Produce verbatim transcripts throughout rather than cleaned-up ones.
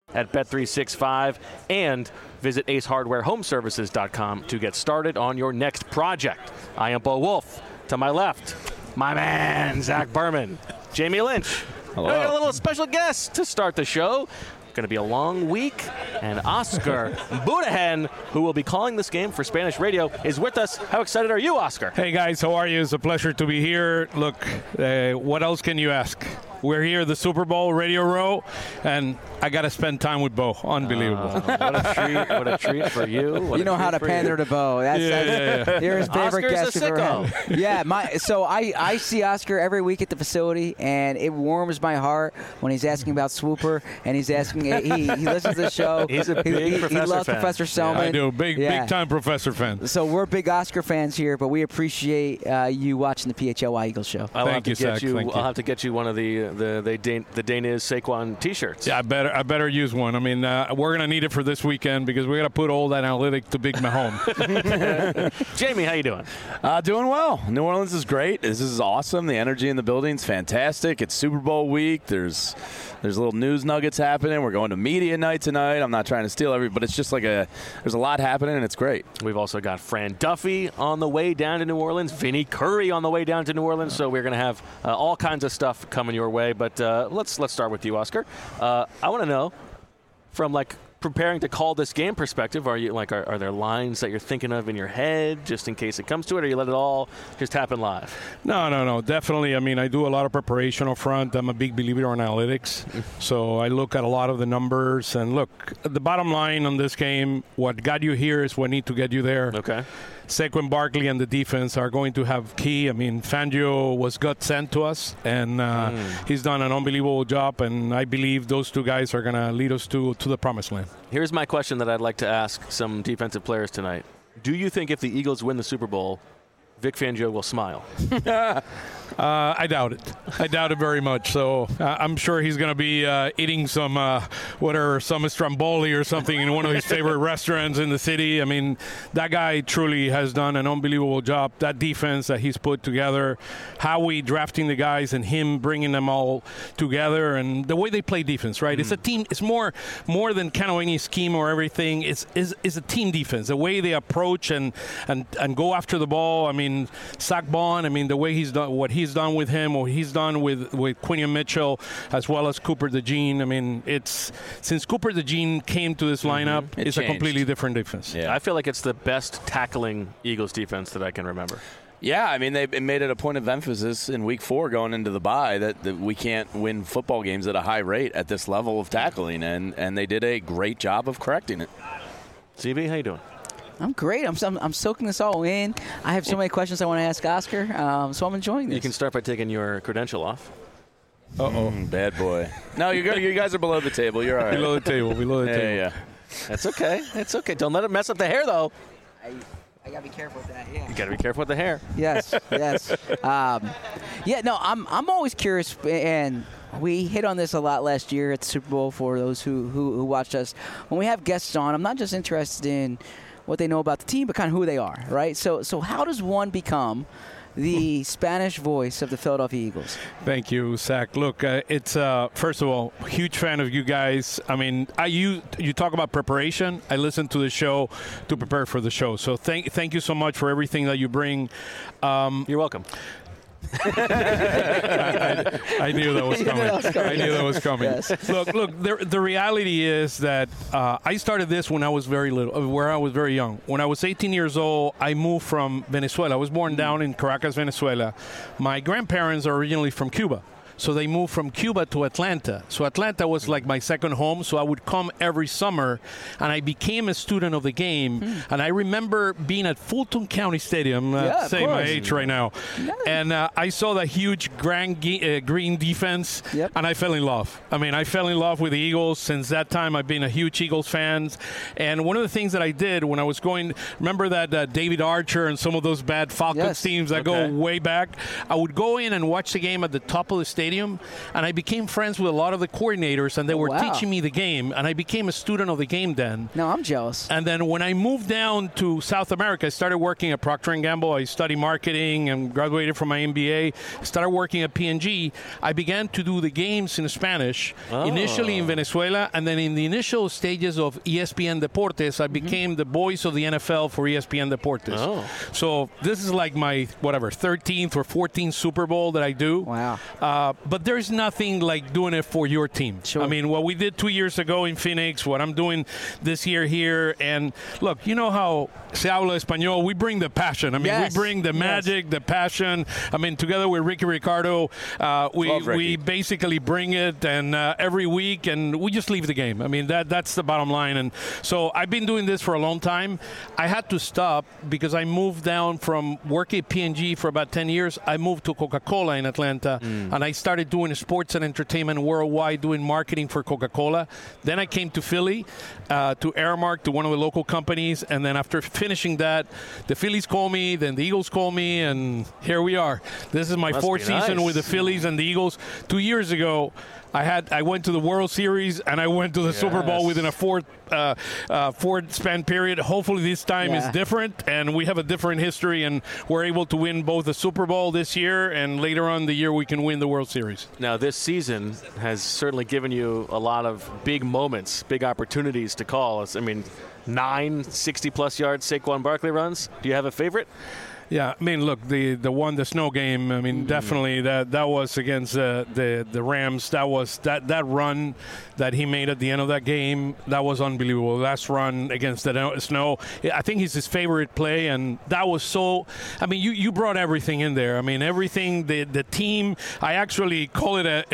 at bet three sixty-five, and visit ace hardware home services dot com to get started on your next project. I am Bo Wolf. To my left, my man, Zach Berman. Jamie Lynch. Hello. We got a little special guest to start the show. Going to be a long week, and Oscar Budahen, who will be calling this game for Spanish radio, is with us. How excited are you, Oscar? Hey, guys. How are you? It's a pleasure to be here. Look, uh, what else can you ask? We're here at the Super Bowl Radio Row, and I got to spend time with Bo. Unbelievable. Uh, what a treat. What a treat for you. What you know how to pander to Bo. That's, yeah, that's yeah, yeah. You're his favorite Oscar's guest a you've ever sicko. had. Yeah, my, so I, I see Oscar every week at the facility, and it warms my heart when he's asking about Swooper, and he's asking, he, he listens to the show. He's a big he, he, Professor he loves fan. Professor Selman. I do. Big, Yeah. big-time Professor fan. So we're big Oscar fans here, but we appreciate uh, you watching the P H L Y Eagles show. I'll Thank have to you, get Zach. you. Thank I'll you. have to get you one of the the the, Dan, the Daniz Saquon T-shirts. Yeah, I better I better use one. I mean, uh, we're going to need it for this weekend because we got to put all that analytic to Big Mahomes. Jamie, how you doing? Uh, doing well. New Orleans is great. This is awesome. The energy in the building's fantastic. It's Super Bowl week. There's there's little news nuggets happening. We're going to media night tonight. I'm not trying to steal every, but it's just like a there's a lot happening, and it's great. We've also got Fran Duffy on the way down to New Orleans, Vinny Curry on the way down to New Orleans. So we're going to have uh, all kinds of stuff coming your way. But uh, let's let's start with you, Oscar. Uh, I want to know, from like preparing to call this game perspective, are you like are, are there lines that you're thinking of in your head just in case it comes to it, or you let it all just happen live? No, no, no. Definitely. I mean, I do a lot of preparation up front. I'm a big believer in analytics. So I look at a lot of the numbers. And look, the bottom line on this game, what got you here is what need to get you there. Okay. Saquon Barkley and the defense are going to have key. I mean, Fangio was God sent to us, and uh, mm. he's done an unbelievable job, and I believe those two guys are going to lead us to, to the promised land. Here's my question that I'd like to ask some defensive players tonight. Do you think if the Eagles win the Super Bowl, Vic Fangio will smile? uh, I doubt it. I doubt it very much. So uh, I'm sure he's going to be uh, eating some, uh, whatever, some Stromboli or something in one of his favorite restaurants in the city. I mean, that guy truly has done an unbelievable job. That defense that he's put together, how we drafting the guys and him bringing them all together, and the way they play defense, right? Mm. It's a team. It's more more than kind of any scheme or everything. It's, it's, it's a team defense. The way they approach and, and, and go after the ball. I mean, Zach Bond, I mean, the way he's done, what he's done with him, what he's done with, with Quinion Mitchell, as well as Cooper DeJean. I mean, it's since Cooper DeJean came to this lineup, mm-hmm. it it's changed. A completely different defense. Yeah. I feel like it's the best tackling Eagles defense that I can remember. Yeah, I mean, they made it a point of emphasis in week four going into the bye that, that we can't win football games at a high rate at this level of tackling, and, and they did a great job of correcting it. C B, how you doing? I'm great. I'm, I'm I'm soaking this all in. I have so many questions I want to ask Oscar, um, so I'm enjoying this. You can start by taking your credential off. Uh-oh. Mm, bad boy. No, you you guys are below the table. You're all right. Below the table. Below the yeah, table. Yeah, That's okay. That's okay. Don't let it mess up the hair, though. I, I got to be careful with that, yeah. You got to be careful with the hair. Yes, yes. Um, yeah, no, I'm I'm always curious, and we hit on this a lot last year at the Super Bowl for those who, who, who watched us. When we have guests on, I'm not just interested in what they know about the team, but kind of who they are, right? So so how does one become the Spanish voice of the Philadelphia Eagles? Thank you, Zach. Look, uh, it's, uh, first of all, huge fan of you guys. I mean, I you, you talk about preparation. I listen to the show to prepare for the show. So thank, thank you so much for everything that you bring. Um, You're welcome. I, I, I knew that was coming. I knew that was coming. Yes. Look, look. The, the reality is that uh, I started this when I was very little, where I was very young. When I was eighteen years old, I moved from Venezuela. I was born down in Caracas, Venezuela. My grandparents are originally from Cuba. So they moved from Cuba to Atlanta. So Atlanta was like my second home. So I would come every summer, and I became a student of the game. Mm. And I remember being at Fulton County Stadium, uh, yeah, saying my age right now, yeah. and uh, I saw that huge grand ge- uh, green defense, yep. and I fell in love. I mean, I fell in love with the Eagles. Since that time, I've been a huge Eagles fan. And one of the things that I did when I was going, remember that uh, David Archer and some of those bad Falcons yes. teams that okay. go way back? I would go in and watch the game at the top of the stadium. stadium, and I became friends with a lot of the coordinators, and they were wow. teaching me the game, and I became a student of the game then. No, I'm jealous. And then when I moved down to South America, I started working at Procter and Gamble. I studied marketing and graduated from my M B A. Started working at P and G. I began to do the games in Spanish, oh. initially in Venezuela, and then in the initial stages of E S P N Deportes, I became mm-hmm. the voice of the N F L for E S P N Deportes. Oh. So this is like my, whatever, thirteenth or fourteenth Super Bowl that I do. Wow. Uh, but there's nothing like doing it for your team. Sure. I mean, what we did two years ago in Phoenix, what I'm doing this year here, and look, you know how se habla español, we bring the passion. I mean, yes. we bring the magic, yes. the passion. I mean, together with Ricky Ricardo, uh, we we basically bring it, and uh, every week, and we just leave the game. I mean, that that's the bottom line. And so I've been doing this for a long time. I had to stop because I moved down from working at P and G for about ten years. I moved to Coca-Cola in Atlanta, mm. and I started doing sports and entertainment worldwide, doing marketing for Coca-Cola. Then I came to Philly, uh, to Aramark, to one of the local companies, and then after finishing that, the Phillies call me, then the Eagles call me, and here we are. This is my Must fourth season nice. with the Phillies and the Eagles. Two years ago, I had I went to the World Series and I went to the yes. Super Bowl within a four uh, uh, four span period. Hopefully this time yeah. is different, and we have a different history, and we're able to win both the Super Bowl this year, and later on the year we can win the World Series. Now this season has certainly given you a lot of big moments, big opportunities to call. I mean, nine sixty-plus yard Saquon Barkley runs. Do you have a favorite? Yeah, I mean, look, the, the one, the snow game, I mean, mm. definitely that that was against uh, the the Rams. That was that, that run that he made at the end of that game, that was unbelievable. Last run against the snow, I think it's his favorite play, and that was so, I mean, you, you brought everything in there. I mean, everything, the the team, I actually call it a,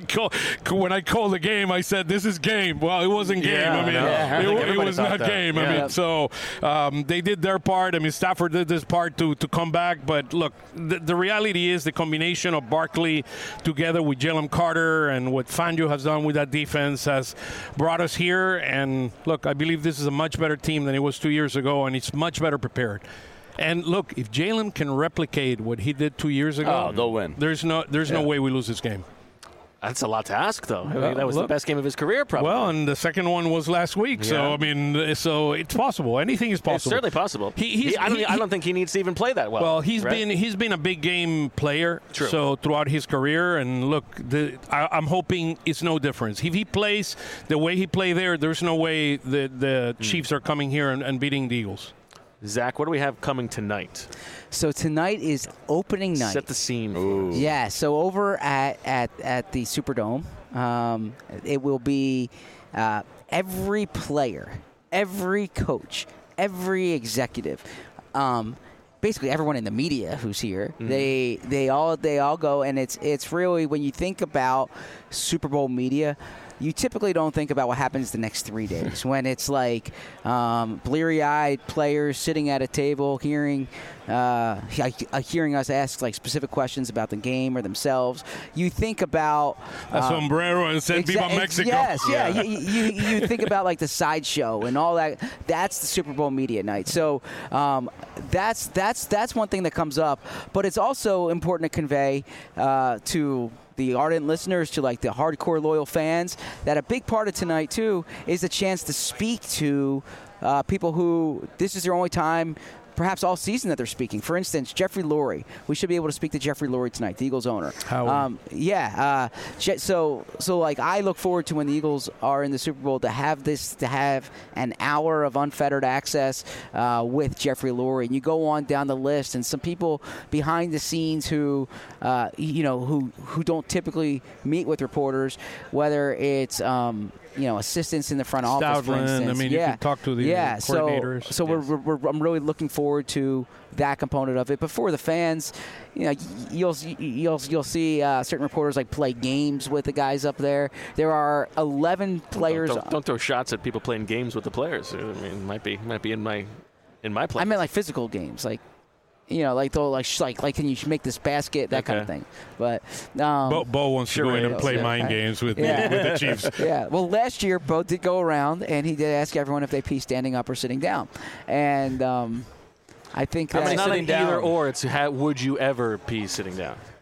when I called the game, I said, this is game. Well, it wasn't game. Yeah, I mean, no. yeah. it, it was not that. game. Yeah. I mean, so um, they did their part. I mean, Stafford did this part to to come back. But look, the, the reality is the combination of Barkley together with Jalen Carter and what Fangio has done with that defense has brought us here. And look, I believe this is a much better team than it was two years ago, and it's much better prepared. And look, if Jalen can replicate what he did two years ago, oh, they'll win. There's no, there's yeah. no way we lose this game. That's a lot to ask, though. I mean, well, that was look, the best game of his career, probably. Well, and the second one was last week. Yeah. So, I mean, so it's possible. Anything is possible. It's certainly possible. He, he's, he, I, don't, he, I don't think he needs to even play that well. Well, he's right? been he's been a big game player. True. So throughout his career, and look, the, I, I'm hoping it's no difference. If he plays the way he played there, there's no way the the mm. Chiefs are coming here and, and beating the Eagles. Zach, what do we have coming tonight? So tonight is opening night. Set the scene. Ooh. Yeah, so over at, at, at the Superdome, um, it will be uh, every player, every coach, every executive, um, basically everyone in the media who's here. Mm. They they all they all go, and it's it's really, when you think about Super Bowl media, you typically don't think about what happens the next three days when it's like um, bleary-eyed players sitting at a table hearing uh, hearing us ask like specific questions about the game or themselves. You think about a um, sombrero and said exa- Viva Mexico. Yes, yeah. yeah. you, you, you think about like the sideshow and all that. That's the Super Bowl media night. So um, that's that's that's one thing that comes up. But it's also important to convey uh, to the ardent listeners, to like the hardcore loyal fans, that a big part of tonight too is the chance to speak to uh, people who this is their only time, perhaps all season, that they're speaking. For instance, Jeffrey Lurie. We should be able to speak to Jeffrey Lurie tonight, the Eagles owner. How? Um, yeah. Uh, so, so like I look forward to when the Eagles are in the Super Bowl to have this, to have an hour of unfettered access uh, with Jeffrey Lurie. And you go on down the list, and some people behind the scenes who, uh, you know, who who don't typically meet with reporters, whether it's um, you know, assistants in the front office, for instance. I mean, yeah. you can talk to the yeah. coordinators. So, so yes. we're, we're, I'm really looking forward to that component of it. But for the fans, you know, you'll you'll you'll see uh, certain reporters like play games with the guys up there. There are eleven players. Don't, don't, don't throw shots at people playing games with the players. I mean, it might be might be in my in my play. I meant like physical games, like. You know, like they'll like sh- like like can you make this basket, that okay. kind of thing. But um, Bo, Bo wants sure to go in is, and play yeah. mind games with, Yeah. the, with the Chiefs. Yeah. Well, last year Bo did go around and he did ask everyone if they pee standing up or sitting down, and um, I think I mean, that it's not sitting an down. either or. It's how, would you ever pee sitting down?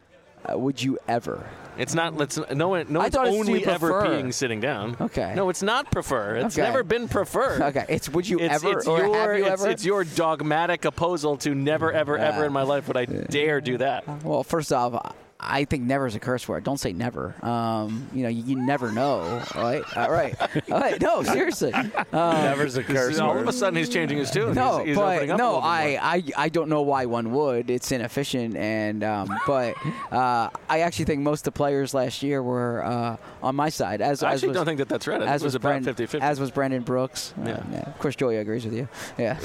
uh, would you ever? It's not. Let's no one. No I one's thought it's only you ever prefer. peeing sitting down. Okay. No, it's not prefer. It's Okay. never been preferred. Okay, it's would you It's, ever it's or your, have you it's, ever? it's your dogmatic opposal to never, ever, Yeah. ever in my life would I dare do that. Well, first off, I think never is a curse word. Don't say never. Um, you know, you, you never know, right? All right. All right. No, seriously. Um, Never's a curse All word. of a sudden, he's changing his tune. no, he's, he's but opening up a no, little bit I, more. I, I don't know why one would. It's inefficient, and um, but uh, I actually think most of the players last year were uh, on my side. As I as actually was, don't think that that's right. I think as it was, was about Brand- fifty-fifty. as was Brandon Brooks. Uh, Yeah. yeah. Of course, Joey agrees with you. Yeah.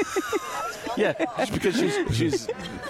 Yeah, just because she's she's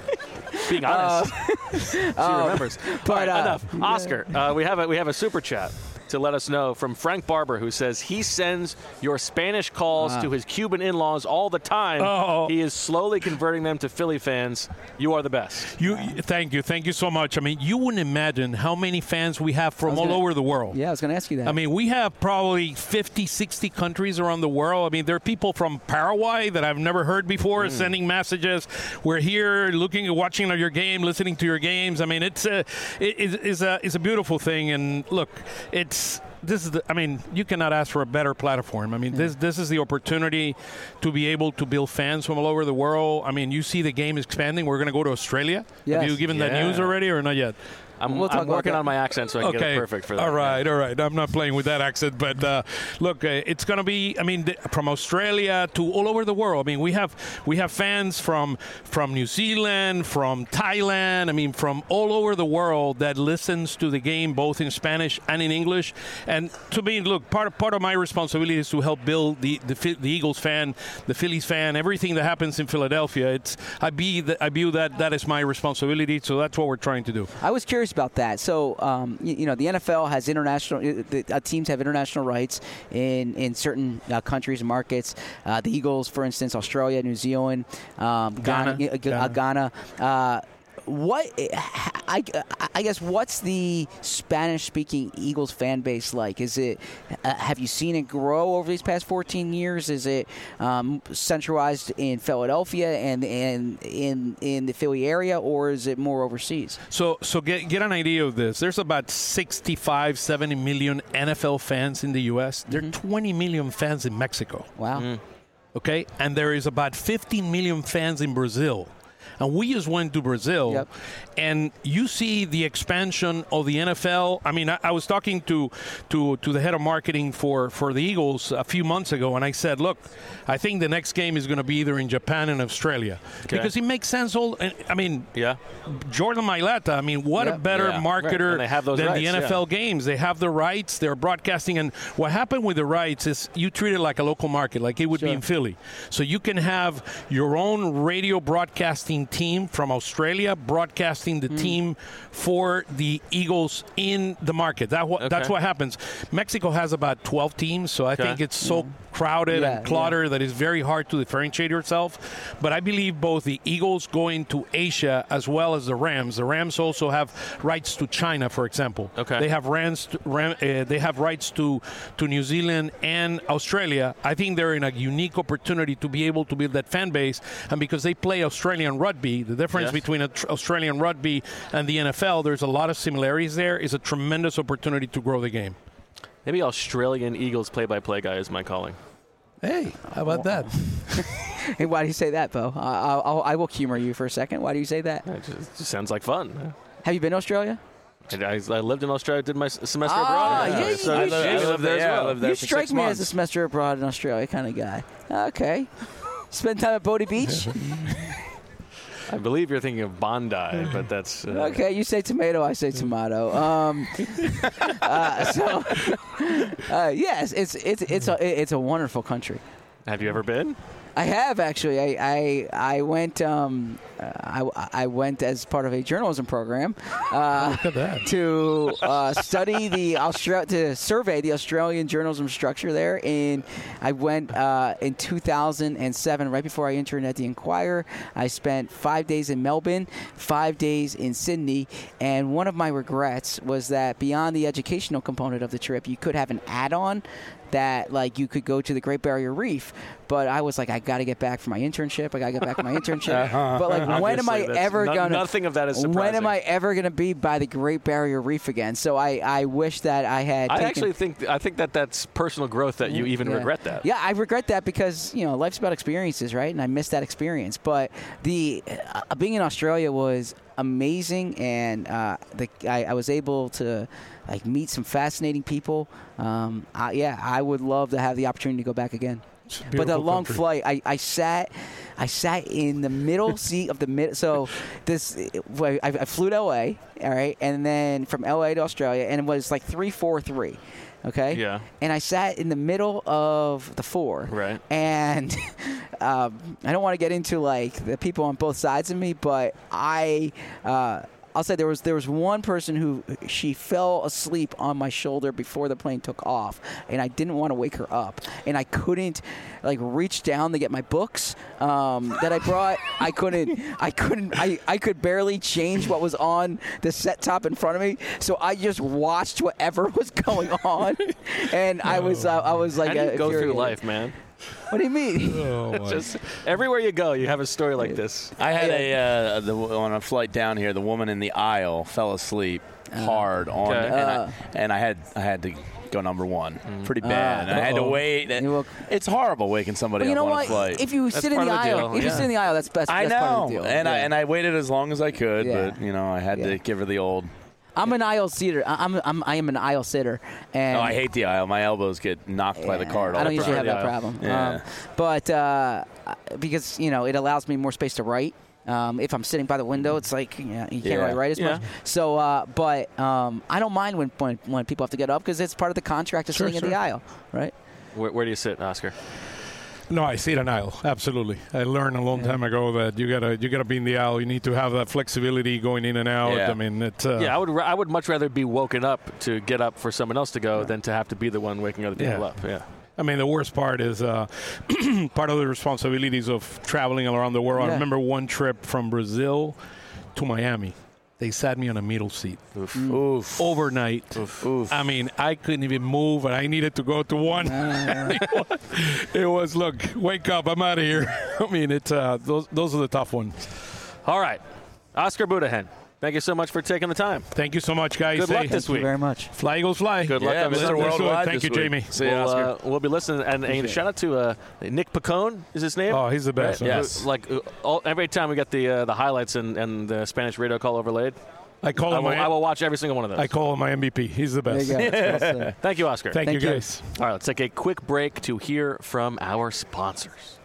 being honest. she remembers. but, All right, uh, enough. Oscar, uh, we have a we have a super chat to let us know from Frank Barber, who says he sends your Spanish calls to his Cuban in-laws all the time. Oh. He is slowly converting them to Philly fans. You are the best. You, thank you, thank you so much. I mean, you wouldn't imagine how many fans we have from was all gonna- over the world. Yeah, I was going to ask you that. I mean, we have probably fifty, sixty countries around the world. I mean, there are people from Paraguay that I've never heard before sending messages. We're here looking at watching your game, listening to your games. I mean, it's a, it, it's, it's a, it's a beautiful thing. And look, it's, this is the, I mean, you cannot ask for a better platform. I mean, this this is the opportunity to be able to build fans from all over the world. I mean, you see the game expanding. We're going to go to Australia. Yes. Have you given that Yeah. news already or not yet? I'm, We'll talk I'm about working that. on my accent so I can get it perfect for that. All right, all right. I'm not playing with that accent, but uh, look, uh, it's going to be. I mean, th- from Australia to all over the world. I mean, we have we have fans from from New Zealand, from Thailand. I mean, from all over the world that listens to the game both in Spanish and in English. And to me, look, part of, part of my responsibility is to help build the the, Phi- the Eagles fan, the Phillies fan, everything that happens in Philadelphia. It's I be the, I view that that is my responsibility. So that's what we're trying to do. I was curious about that. So, um, you, you know, the N F L has international uh, the, uh, teams have international rights in in certain uh, countries and markets. Uh, the Eagles, for instance, Australia, New Zealand, um, Ghana, Ghana. uh, G- uh, Ghana. Uh, what I, I guess what's the Spanish-speaking Eagles fan base like? Is it uh, have you seen it grow over these past fourteen years? Is it um, centralized in Philadelphia and and in in the Philly area, or is it more overseas? So, so get get an idea of this. There's about sixty-five, seventy million N F L fans in the U S. There are twenty million fans in Mexico. Wow. Okay, and there is about fifteen million fans in Brazil. And we just went to Brazil, Yep. and you see the expansion of the N F L. I mean, I, I was talking to, to to the head of marketing for, for the Eagles a few months ago, and I said, look, I think the next game is going to be either in Japan and Australia. Okay. Because it makes sense. All I mean, Yeah. Jordan Mailata, I mean, what Yeah. a better Yeah. marketer Right. And they have those than rights, the N F L yeah. games. They have the rights, they're broadcasting. And what happened with the rights is you treat it like a local market, like it would be Sure. in Philly. So you can have your own radio broadcasting team from Australia broadcasting the team for the Eagles in the market. That what, That's Okay. what happens. Mexico has about twelve teams, so I Okay. think it's so crowded Yeah, and cluttered that it's very hard to differentiate yourself. But I believe both the Eagles going to Asia as well as the Rams. The Rams also have rights to China, for example. Okay. They have Rams. To, Ram, uh, they have rights to to New Zealand and Australia. I think they're in a unique opportunity to be able to build that fan base, and because they play Australian rugby, the difference Yes. between a tr- Australian rugby and the N F L, there's a lot of similarities there. Is a tremendous opportunity to grow the game. Maybe Australian Eagles play-by-play guy is my calling. Hey, how about that? Hey, why do you say that, Bo? I, I'll, I will humor you for a second. Why do you say that? It just, it just sounds like fun. Have you been to Australia? And I, I lived in Australia, did my s- semester Ah, abroad. yeah, you- so you I should- lived, I I lived there as yeah, I well. lived there You for strike six me months. as a semester abroad in Australia kind of guy. Okay. Spend time at Bodie Beach? I believe you're thinking of Bondi, but that's uh, Okay, you say tomato, I say tomato. Um, uh, so, uh, yes, it's it's it's a it's a wonderful country. Have you ever been? I have actually. I I, I went um, uh, I, I went as part of a journalism program uh, Look at that. to uh, study the Austra- to survey the Australian journalism structure there. And I went uh, in two thousand seven, right before I interned at the Enquirer. I spent five days in Melbourne, five days in Sydney, and one of my regrets was that beyond the educational component of the trip, you could have an add-on that like you could go to the Great Barrier Reef. But I was like, I got to get back from my internship. I got to get back from my internship. But like, when am I ever no, gonna? Nothing of that is surprising. When am I ever gonna be by the Great Barrier Reef again? So I, I wish that I had. I taken, actually think I think that that's personal growth that you even yeah. regret that. Yeah, I regret that because you know life's about experiences, right? And I missed that experience. But the uh, being in Australia was amazing, and uh, the, I, I was able to like meet some fascinating people. Um, I, yeah, I would love to have the opportunity to go back again. But the long country. flight, I, I sat, I sat in the middle seat of the mid. So this, I, I flew to L A, all right, and then from L A to Australia, and it was like three, four, three, okay. Yeah. And I sat in the middle of the four. Right. And um, I don't want to get into like the people on both sides of me, but I. Uh, I'll say there was there was one person who she fell asleep on my shoulder before the plane took off, and I didn't want to wake her up, and I couldn't like reach down to get my books um, that I brought. I couldn't I couldn't I, I could barely change what was on the set top in front of me, so I just watched whatever was going on, and I was uh, I was like How do you uh, go through infuriated. life, man? What do you mean? Oh, my. Just everywhere you go, you have a story like this. I had a uh, the, on a flight down here. The woman in the aisle fell asleep hard on, Okay. and, Uh. I, and I had I had to go number one, Mm. pretty bad. and I had to Uh-oh. wait. You woke- It's horrible waking somebody But you up know on what? a flight. If you That's sit in part the of the aisle, deal, if you yeah. sit in the aisle, that's best. I that's part know, of the deal. and I Yeah. and I waited as long as I could, Yeah. but you know I had Yeah. to give her the old. I'm an aisle seater. I- I'm, I'm I am an aisle sitter, and Oh, I hate the aisle. My elbows get knocked by the Yeah, card all I don't the usually time. have that Yeah. problem. Yeah. Um, but uh, because you know it allows me more space to write. Um, if I'm sitting by the window, it's like you, know, you can't Yeah. really write as Yeah. much. So, uh, but um, I don't mind when, when when people have to get up because it's part of the contract of Sure, sitting in the sure. aisle, right? Where, where do you sit, Oscar? No, I see an aisle. Absolutely. I learned a long time ago that you gotta you gotta be in the aisle. You need to have that flexibility going in and out. Yeah. I mean, it's uh, Yeah, I would. ra- I would much rather be woken up to get up for someone else to go than to have to be the one waking other people Yeah. up. Yeah. I mean, the worst part is uh, part of the responsibilities of traveling around the world. Yeah. I remember one trip from Brazil to Miami. They sat me on a middle seat Oof. Oof. overnight. Oof. I mean, I couldn't even move, and I needed to go to one. It was, look, wake up, I'm out of here. I mean, it's uh, those those are the tough ones. All right, Oscar Budahen. Thank you so much for taking the time. Thank you so much, guys. Good luck Hey, this Thank you week. very much. Fly Eagles fly. Good luck Yeah, on the Mister Sunday. Worldwide. Thank this you, week. Jamie. See you, We'll, Oscar. uh, we'll be listening, and, and shout out to uh, Nick Pacone. Is his name? Oh, he's the best. Right? Yes. Who- Like uh, all, every time we get the uh, the highlights and, and the Spanish radio call overlaid, I call I him will, my I will watch every single one of those. I call him my M V P. He's the There best. you go. That's well said. Thank you, Oscar. Thank, Thank you, you. guys. All right, let's take a quick break to hear from our sponsors.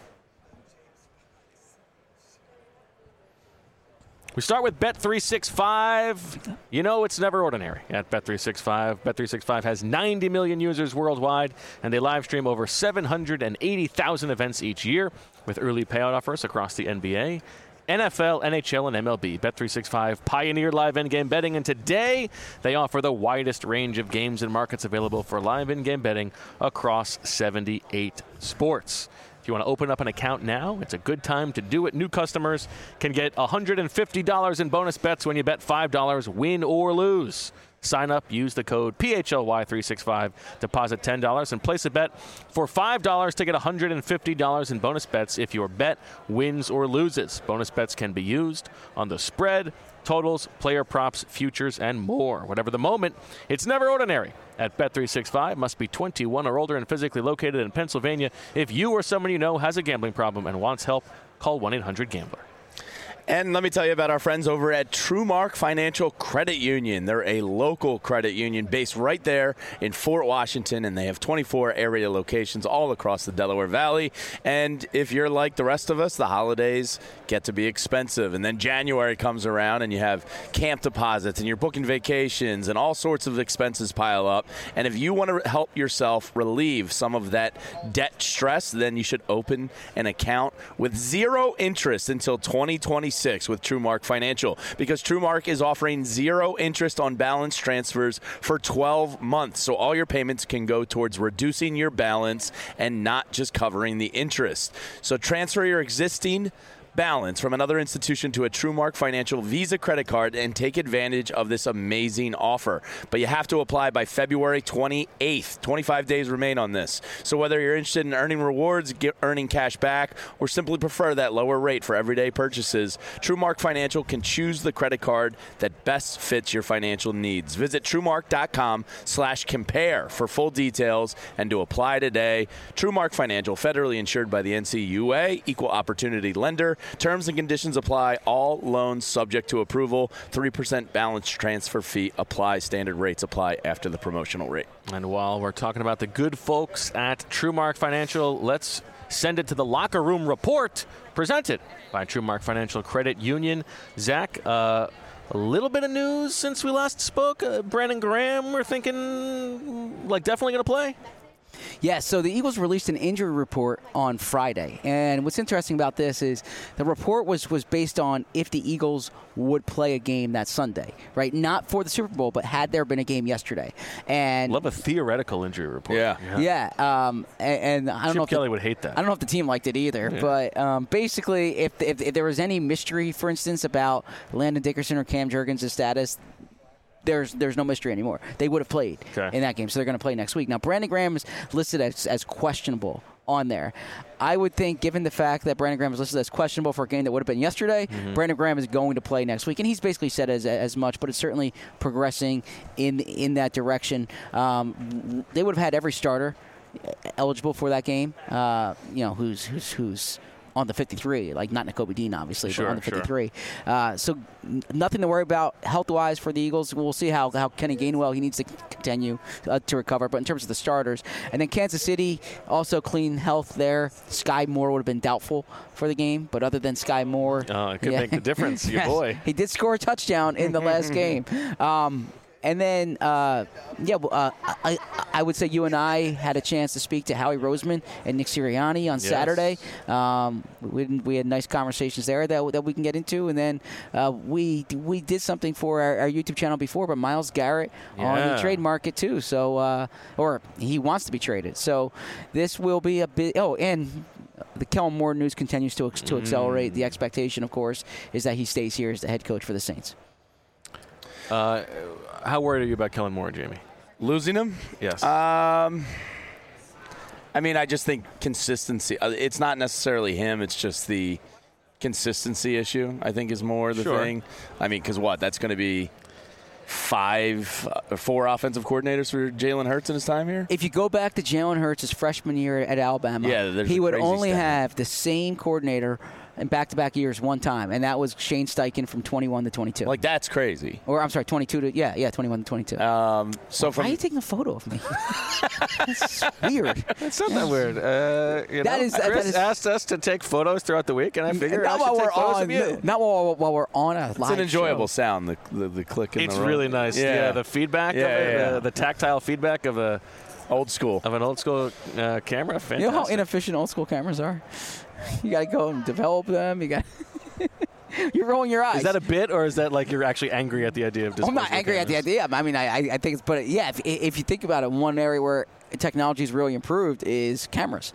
We start with Bet three sixty-five. You know it's never ordinary at Bet three sixty-five. Bet three sixty-five has ninety million users worldwide, and they live stream over seven hundred eighty thousand events each year with early payout offers across the N B A, N F L, N H L, and M L B. Bet three sixty-five pioneered live in-game betting, and today they offer the widest range of games and markets available for live in-game betting across seventy-eight sports. If you want to open up an account now, it's a good time to do it. New customers can get one hundred fifty dollars in bonus bets when you bet five dollars, win or lose. Sign up, use the code P H L Y three sixty-five, deposit ten dollars, and place a bet for five dollars to get one hundred fifty dollars in bonus bets if your bet wins or loses. Bonus bets can be used on the spread, totals, player props, futures, and more. Whatever the moment, it's never ordinary. At Bet three sixty-five, must be twenty-one or older and physically located in Pennsylvania. If you or someone you know has a gambling problem and wants help, call one eight hundred gambler. And let me tell you about our friends over at TrueMark Financial Credit Union. They're a local credit union based right there in Fort Washington, and they have twenty-four area locations all across the Delaware Valley. And if you're like the rest of us, the holidays get to be expensive. And then January comes around, and you have camp deposits, and you're booking vacations, and all sorts of expenses pile up. And if you want to help yourself relieve some of that debt stress, then you should open an account with zero interest until twenty twenty-six with TrueMark Financial, because TrueMark is offering zero interest on balance transfers for twelve months. So all your payments can go towards reducing your balance and not just covering the interest. So transfer your existing balance from another institution to a TrueMark Financial Visa credit card and take advantage of this amazing offer. But you have to apply by February twenty-eighth. twenty-five days remain on this. So whether you're interested in earning rewards, get, earning cash back, or simply prefer that lower rate for everyday purchases, TrueMark Financial can choose the credit card that best fits your financial needs. Visit TrueMark.com slash compare for full details and to apply today. TrueMark Financial, federally insured by the N C U A, equal opportunity lender. Terms and conditions apply. All loans subject to approval. three percent balance transfer fee applies. Standard rates apply after the promotional rate. And while we're talking about the good folks at TrueMark Financial, let's send it to the Locker Room Report, presented by TrueMark Financial Credit Union. Zach, uh, a little bit of news since we last spoke. Uh, Brandon Graham, we're thinking, like, definitely going to play? Yeah, so the Eagles released an injury report on Friday. And what's interesting about this is the report was, was based on if the Eagles would play a game that Sunday, right? Not for the Super Bowl, but had there been a game yesterday. And Love a theoretical injury report. Yeah. Yeah, um, and, and I don't Chip know if Kelly the, would hate that. I don't know if the team liked it either, Yeah. but um, basically, if, if if there was any mystery, for instance, about Landon Dickerson or Cam Jurgens' status, there's there's no mystery anymore. They would have played Okay. in that game, so they're going to play next week. Now, Brandon Graham is listed as, as questionable on there. I would think, given the fact that Brandon Graham is listed as questionable for a game that would have been yesterday, mm-hmm. Brandon Graham is going to play next week, and he's basically said as as much. But it's certainly progressing in in that direction. Um, they would have had every starter eligible for that game. Uh, you know, who's who's who's. on the fifty-three, like not Nakobe Dean, obviously, Sure, but on the fifty-three. sure. Uh, so n- nothing to worry about health-wise for the Eagles. We'll see how, how Kenny Gainwell, he needs to continue uh, to recover. But in terms of the starters, and then Kansas City, also clean health there. Sky Moore would have been doubtful for the game, but other than Sky Moore. Oh, it could yeah. make the difference, your Yes. boy. He did score a touchdown in the last game. Um, And then, uh, yeah, well, uh, I, I would say you and I had a chance to speak to Howie Roseman and Nick Sirianni on Yes. Saturday. Um, we, we had nice conversations there that, that we can get into. And then uh, we we did something for our, our YouTube channel before, but Myles Garrett on the Yeah. trade market too. So, uh, or he wants to be traded. So this will be a bit. Oh, and the Kellen Moore news continues to to accelerate. The expectation, of course, is that he stays here as the head coach for the Saints. Uh, how worried are you about Kellen Moore, Jamie? Losing him? Yes. Um, I mean, I just think consistency. uh, It's not necessarily him. It's just the consistency issue, I think, is more the Sure. thing. I mean, because what? That's going to be five or four offensive coordinators for Jalen Hurts in his time here? If you go back to Jalen Hurts' freshman year at Alabama, Yeah, there's he a would crazy only stat. have the same coordinator in back-to-back years one time, and that was Shane Steichen from twenty-one to twenty-two. Like, that's crazy. or I'm sorry, twenty-two to yeah, yeah, twenty-one to twenty-two. Um, so Why from are you taking a photo of me? That's weird. It's not that weird. Uh, you That know, is- that Chris is- asked us to take photos throughout the week, and I figured I not should while take we're photos on, of you. not while, while we're on a live it's an enjoyable show. sound, the the, the click in It's the room. really nice. Yeah, the feedback Yeah, of it, yeah, yeah. The, the tactile feedback of a Old school. of an old school uh, camera. Fantastic. You know how inefficient old school cameras are? You got to go and develop them. You got. You're rolling your eyes. Is that a bit, or is that like you're actually angry at the idea of I'm not disposable angry at the cameras? idea. I mean, I, I I think it's, but yeah, if, if you think about it, one area where technology is really improved is cameras.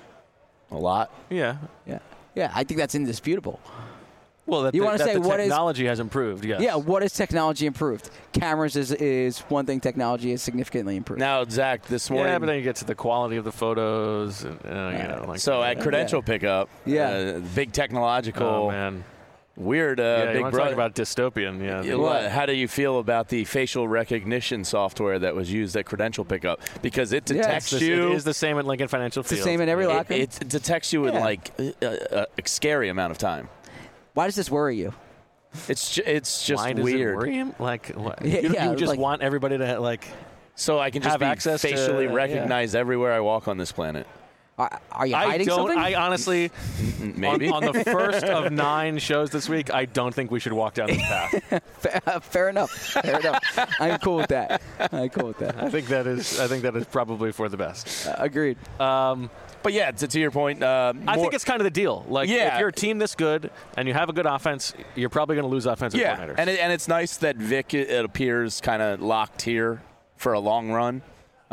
A lot. Yeah. Yeah, yeah, I think that's indisputable. Well, that You the, wanna that say the what is- technology has improved. Yes. Yeah, what has technology improved? Cameras is is one thing technology has significantly improved. Now, Zach, this morning. Yeah, but then you get to the quality of the photos, and uh, you know, like so at credential pickup, Yeah. uh, big technological, oh man, weird, uh, yeah, you big want to brother. talk about dystopian? Yeah, Yeah, what- How do you feel about the facial recognition software that was used at credential pickup? Because it Yeah, detects It's the- you. It is the same at Lincoln Financial it's the Field. same in every it, locker. it detects you in Yeah. like a, a, a scary amount of time. Why does this worry you? It's ju- it's just Why does weird. it worry him? Like, what? Yeah, you, yeah, you just like- want everybody to like. So I can just Have be access to- facially yeah. recognized everywhere I walk on this planet. Are, are you I hiding don't. something? I honestly, Maybe. on, on the first of nine shows this week, I don't think we should walk down this path. fair, fair enough. Fair enough. I'm cool with that. I'm cool with that. I think that is. I think that is probably for the best. Uh, agreed. Um, But yeah, to, to your point, uh, I more- think it's kind of the deal. Like, Yeah. if you're a team this good and you have a good offense, you're probably going to lose offensive yeah, coordinators. and it, and it's nice that Vic it, it appears kind of locked here for a long run.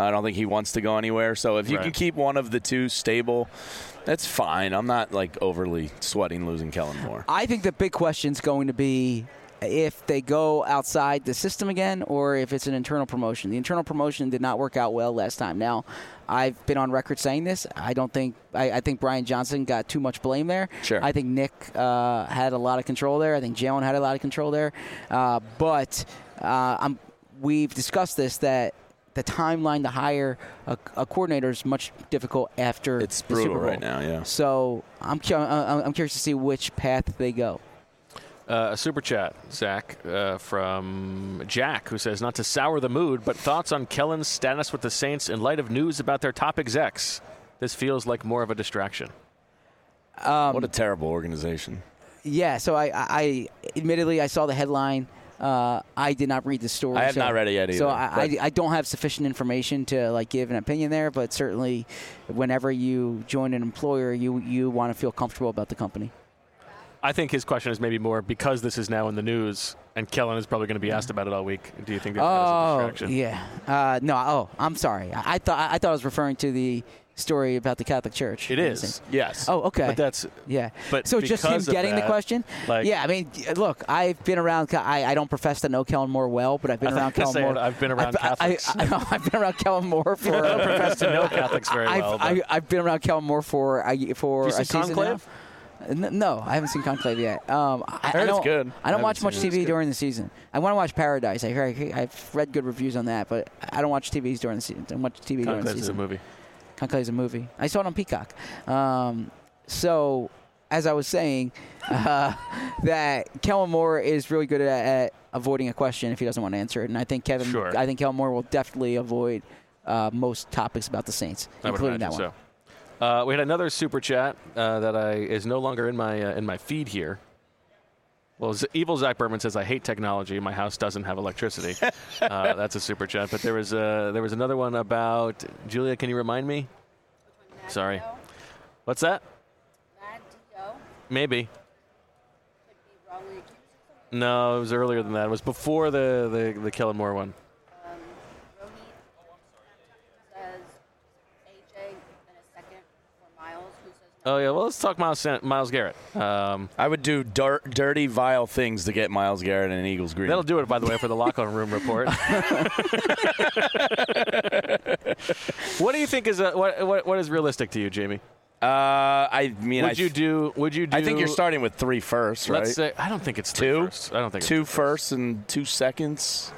I don't think he wants to go anywhere. So if you Right. can keep one of the two stable, that's fine. I'm not like overly sweating losing Kellen Moore. I think the big question is going to be if they go outside the system again or if it's an internal promotion. The internal promotion did not work out well last time. Now, I've been on record saying this. I don't think I, I think Brian Johnson got too much blame there. Sure. I think Nick uh, had a lot of control there. I think Jalen had a lot of control there. Uh, but uh, I'm, we've discussed this that the timeline to hire a, a coordinator is much difficult after It's the brutal Super Bowl. right now, yeah. So I'm cu- uh, I'm curious to see which path they go. Uh, a super chat, Zach, uh, from Jack, who says, not to sour the mood, but thoughts on Kellen's status with the Saints in light of news about their top execs. This feels like more of a distraction. Um, What a terrible organization. Yeah, so I, I admittedly I saw the headline. Uh, I did not read the story. I have so, not read it yet either, So I, I, but- I don't have sufficient information to like give an opinion there. But certainly, whenever you join an employer, you you want to feel comfortable about the company. I think his question is maybe more because this is now in the news, and Kellen is probably going to be asked about it all week. Do you think that, that is a Oh, distraction? yeah. Uh, no. Oh, I'm sorry. I, I thought I thought I was referring to the story about the Catholic Church. It is. Yes. Oh, okay. But that's Yeah. But so just him because of getting the that, question? like- yeah, I mean, look, I've been around. I, I don't profess to know Kellen Moore well, but I've been I around thought you Kellen were Moore. saying I've been around I've, I, Catholics. I, I've been around Kellen Moore for. I don't profess to know Catholics very I've, well. I, but- I've been around Kellen Moore for I, for Did you a see season Conclave? now. N- No, I haven't seen Conclave yet. Um, I, heard I it's don't, good. I don't I watch haven't much seen it. T It's V good. during the season. I want to watch Paradise. I hear, I've read good reviews on that, but I don't watch T Vs during the season. I don't watch T V during the Conclave is a season. movie. Conclave is a movie. I saw it on Peacock. Um, so, as I was saying, uh, that Kellen Moore is really good at, at avoiding a question if he doesn't want to answer it, and I think Kevin, Sure. I think Kellen Moore will definitely avoid uh, most topics about the Saints, I would including that imagine one. so. Uh, we had another super chat uh, that I is no longer in my uh, in my feed here. Well, Z- Evil Zach Berman says, I hate technology. My house doesn't have electricity. uh, that's a super chat. But there was, uh, there was another one about, Julia, can you remind me? Sorry. What's that? Mad Dio Maybe. could be wrongly accused of something. No, it was earlier than that. It was before the, the, the Kellen Moore one. Um, Rohit says A J in a second for Miles, who says Oh, yeah. Well, let's talk Miles, San- Miles Garrett. Um, I would do dirt, dirty, vile things to get Myles Garrett and an Eagles green. that'll do it, by the way, for the locker room report. What do you think is a, what, what what is realistic to you, Jamie? Uh, I mean, Would I, you do? Would you do? I think you're starting with three firsts, right? Let's say I don't think it's three two. firsts. I don't think two it's firsts and two seconds.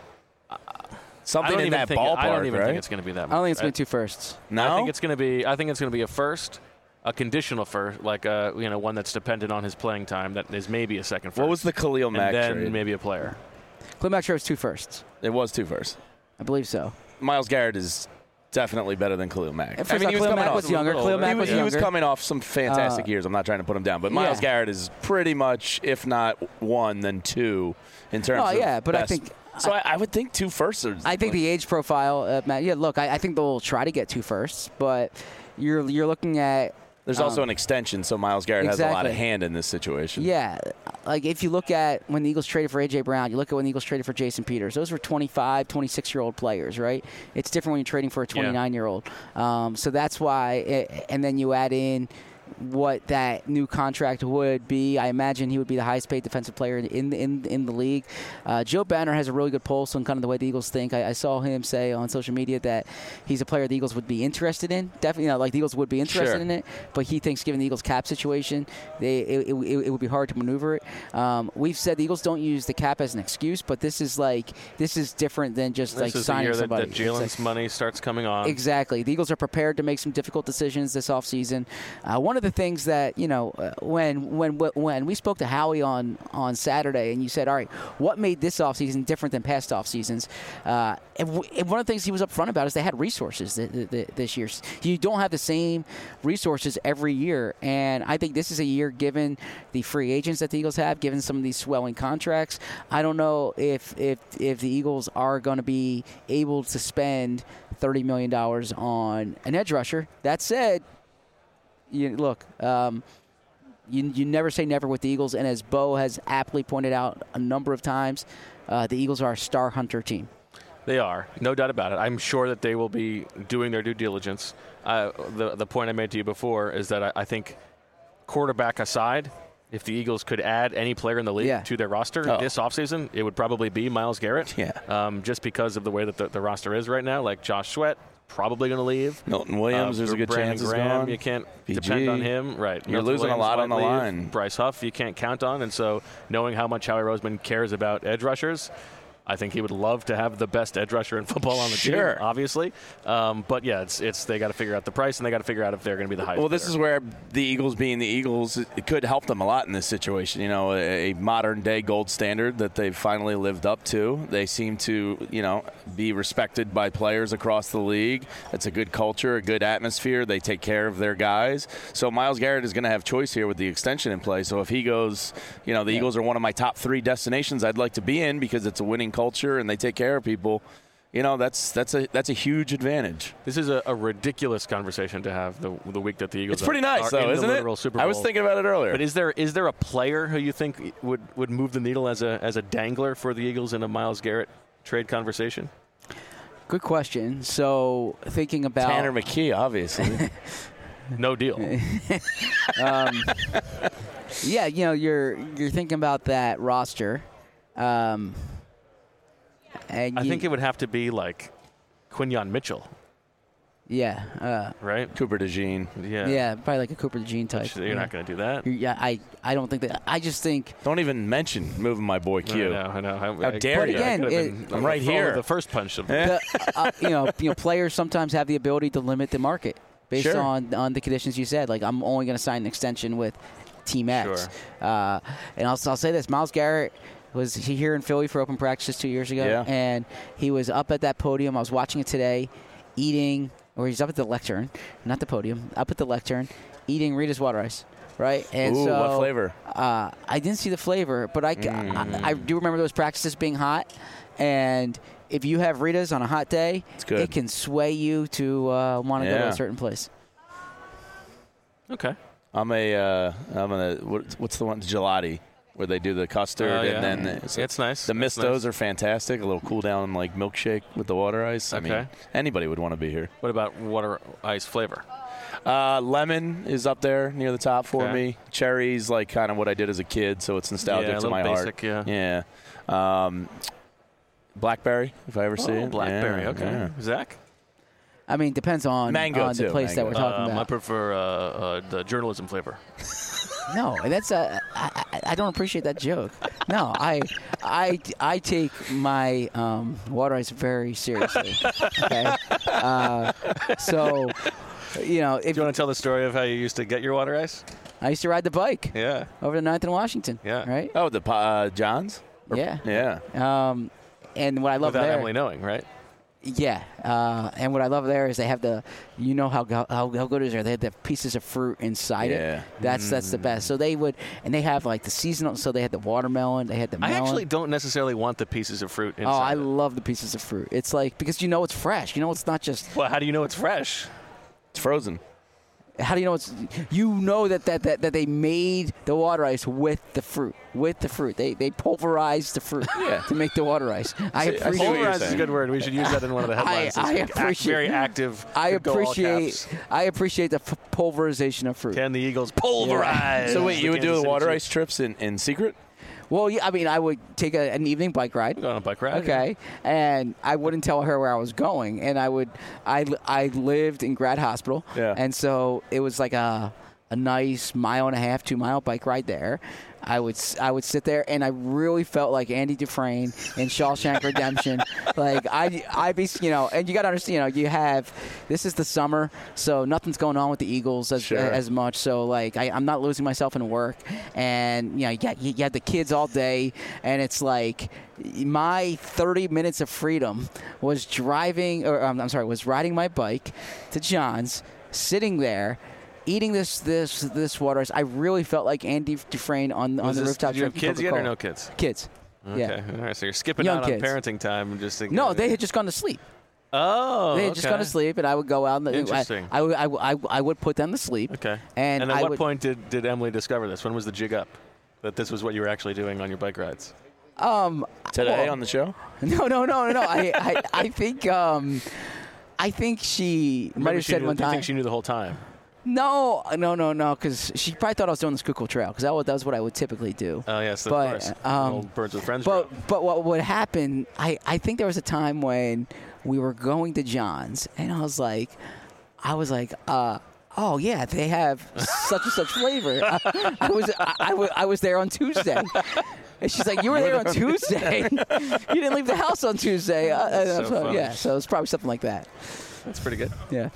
I Something don't in even that think it- ballpark, I don't even right? think it's going to be that. I don't think much. it's going to be two firsts. no, I think it's going to be. I think it's going to be a first, a conditional first, like a you know one that's dependent on his playing time. That is maybe a second first. What was the Khalil and Mack then trade? maybe a player. Clem Mack was two firsts. It was two firsts. I believe so. Myles Garrett is definitely better than Khalil Mack. And first off, Khalil Mack was younger. Khalil Mack he, was was, he was younger. coming off some fantastic Uh, years. I'm not trying to put him down, but Myles yeah. Garrett is pretty much, if not one, then two in terms Oh, of yeah, but I best. think- So I, I would think two firsts. Are, I think the age profile, uh, Matt. Yeah, look, I, I think they'll try to get two firsts, but you're you're looking at there's um, also an extension, so Myles Garrett has a lot of exactly. hand in this situation. yeah, like if you look at when the Eagles traded for A J Brown, you look at when the Eagles traded for Jason Peters. Those were twenty-five, twenty-six-year-old players, right? It's different when you're trading for a twenty-nine-year-old. Um, so that's why, it, and then you add in what that new contract would be. I imagine he would be the highest paid defensive player in in in the league. Uh, Joe Banner has a really good pulse on kind of the way the Eagles think. I, I saw him say on social media that he's a player the Eagles would be interested in. Definitely, you know, like the Eagles would be interested Sure. in it, but he thinks given the Eagles cap situation, they it, it, it would be hard to maneuver it. Um, we've said the Eagles don't use the cap as an excuse, but this is like this is different than just This like is the signing year that, somebody. that Jalen's It's like- money starts coming on. Exactly. The Eagles are prepared to make some difficult decisions this offseason. Uh, one of the things that, you know, uh, when when when we spoke to Howie on, on Saturday and you said, all right, what made this offseason different than past off seasons? Uh, and, w- and one of the things he was upfront about is they had resources th- th- th- this year. You don't have the same resources every year. And I think this is a year, given the free agents that the Eagles have, given some of these swelling contracts, I don't know if, if, if the Eagles are going to be able to spend thirty million dollars on an edge rusher. That said, you look, um, you you never say never with the Eagles, and as Bo has aptly pointed out a number of times, uh, the Eagles are a star hunter team. They are, no doubt about it. I'm sure that they will be doing their due diligence. Uh, the the point I made to you before is that I, I think, quarterback aside, if the Eagles could add any player in the league yeah. to their roster oh. this offseason, it would probably be Myles Garrett. Yeah. Um, just because of the way that the, the roster is right now, like Josh Sweat, probably going to leave. Milton Williams, Uh, there's a good Brandon chance he's Graham, gone. You can't P G. depend on him. Right. You're Milton losing Williams a lot might on the leave. line. Bryce Huff, you can't count on. And so knowing how much Howie Roseman cares about edge rushers, I think he would love to have the best edge rusher in football on the Sure. team, obviously. Um, but, yeah, it's it's they got to figure out the price, and they got to figure out if they're going to be the highest Well, this bidder. is where the Eagles, being the Eagles, it could help them a lot in this situation. You know, a, a modern-day gold standard that they've finally lived up to. They seem to, you know, be respected by players across the league. It's a good culture, a good atmosphere. They take care of their guys. So Myles Garrett is going to have choice here with the extension in play. So if he goes, you know, the Yeah. Eagles are one of my top three destinations I'd like to be in because it's a winning culture and they take care of people. You know, that's that's a that's a huge advantage. This is a, a ridiculous conversation to have the the week that the Eagles It's pretty are, nice, are though, in isn't the it? literal Super Bowl. I was thinking about it earlier. But is there is there a player who you think would, would move the needle as a as a dangler for the Eagles in a Myles Garrett trade conversation? Good question. So thinking about Tanner McKee, obviously. No deal. um, yeah, you know, you're you're thinking about that roster. Um, and I you- think it would have to be like Quinyon Mitchell, yeah, uh, right? Cooper DeJean. Yeah. yeah, probably like a Cooper DeJean type. Which You're yeah. not going to do that. You're- Yeah, I, I don't think that. I just think Don't even mention moving my boy Q. I know, I know. How How dare I you. Again, could have it- been I'm right followed here. The first punch of Eh? the, uh, you know, you know, players sometimes have the ability to limit the market based Sure. on on the conditions you said. Like, I'm only going to sign an extension with Team X. Sure. Uh, and I'll, I'll say this: Myles Garrett was he here in Philly for open practices two years ago, Yeah. and he was up at that podium. I was watching it today, eating, or he's up at the lectern, not the podium, up at the lectern, eating Rita's water ice. Right, and Ooh, so what flavor? Uh, I didn't see the flavor, but I, Mm. I, I do remember those practices being hot. And if you have Rita's on a hot day, It's good. it can sway you to uh, want to go to Yeah. a certain place. Okay. I'm a, uh, I'm a, what, what's the one? Gelati, where they do the custard Oh, yeah. and then the, It's nice. the That's mistos nice. are fantastic. A little cool down like milkshake with the water ice. I mean, Okay. anybody would want to be here. What about water ice flavor? Uh, lemon is up there near the top for Okay. me. Cherry's like kind of what I did as a kid, so it's nostalgic Yeah, a to little my basic, heart. yeah. Yeah. Um, blackberry, if I ever see Oh, it. blackberry. Yeah, Okay. yeah. Zach? I mean, depends on, Mango, on the too, place that we're mango. talking Um, I about. prefer uh, uh, the journalism flavor. No, that's a. I, I- I don't appreciate that joke. No, I, I, I take my um, water ice very seriously. Okay, uh, so you know, if Do you want to tell the story of how you used to get your water ice? I used to ride the bike Yeah. over to ninth and Washington. Yeah. Right. Oh, the uh, Johns? Or- Yeah. Yeah. Um, and what I love Without there, Emily knowing, right? yeah, uh, and what I love there is they have the, you know how go- how, how good is there? They have the pieces of fruit inside Yeah. it. That's that's the best. So they would, and they have like the seasonal. So they had the watermelon. They had the I melon. actually don't necessarily want the pieces of fruit oh, inside. I it. love the pieces of fruit. It's like because you know it's fresh. You know it's not just. Well, how do you know it's fresh? It's frozen. How do you know it's? You know that that, that, that they made the water ice with the fruit. With the fruit, they they pulverized the fruit Yeah. to make the water ice. I See, I see appreciate. what you're Pulverized is a saying. good word. We should use that in one of the headlines. I this week. Act- appreciate- Very active. I could go all appreciate. caps. I appreciate the f- pulverization of fruit. Can the Eagles pulverize? So wait, the you would do Kansas the City water Chiefs? ice trips in, in secret? Well, yeah, I mean, I would take a, an evening bike ride. Go on a bike ride. Okay, and I wouldn't tell her where I was going, and I would. I, I lived in Grad Hospital, Yeah. and so it was like a a nice mile and a half, two mile bike ride there. I would s- I would sit there, and I really felt like Andy Dufresne in Shawshank Redemption. Like I I be you know, and you got to understand, you know, you have this is the summer, so nothing's going on with the Eagles as Sure. as much. So like I, I'm not losing myself in work, and you know, you got you got the kids all day, and it's like my thirty minutes of freedom was driving, or um, I'm sorry, was riding my bike to John's, sitting there. Eating this this this water ice, I really felt like Andy Dufresne on on Was the this- rooftop did you have drinking kids yet or Coca-Cola. no kids? Kids. Okay. Yeah. All right. So you're skipping Young out kids. on parenting time and just thinking. No, they had just gone to sleep. Oh. They had just okay. gone to sleep, and I would go out and Interesting. I, I, would- I, would- I, would- I would put them to sleep. Okay. And, And at I what would, point did, did Emily discover this? When was the jig up? That this was what you were actually doing on your bike rides? Um, Today well, on the show? No, no, no, no, no. I, I, I think, um, I think she might Maybe have she said knew, one you time. think she knew the whole time? No, no, no, no, because she probably thought I was doing the Schuylkill Trail, because that was, that was what I would typically do. Oh, yes, of But, course. um, Old Birds with Friends But drill. but what would happen? I, I think there was a time when we were going to John's, and I was like, I was like, uh, oh yeah, they have such and such flavor. I, I was I, I, was I was there on Tuesday. And she's like, you were there on Tuesday. You didn't leave the house on Tuesday. Uh, uh, So so, funny. yeah, so it's probably something like that. That's pretty good. Yeah.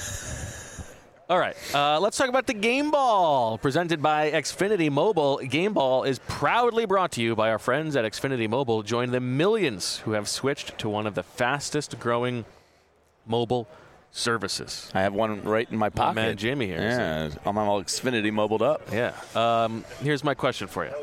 All right, uh, let's talk about the Game Ball, presented by Xfinity Mobile. Game Ball is proudly brought to you by our friends at Xfinity Mobile. Join the millions who have switched to one of the fastest-growing mobile services. I have one right in my pocket. man Jamie here. Yeah, I'm all Xfinity mobiled up. Yeah. Um, here's my question for you.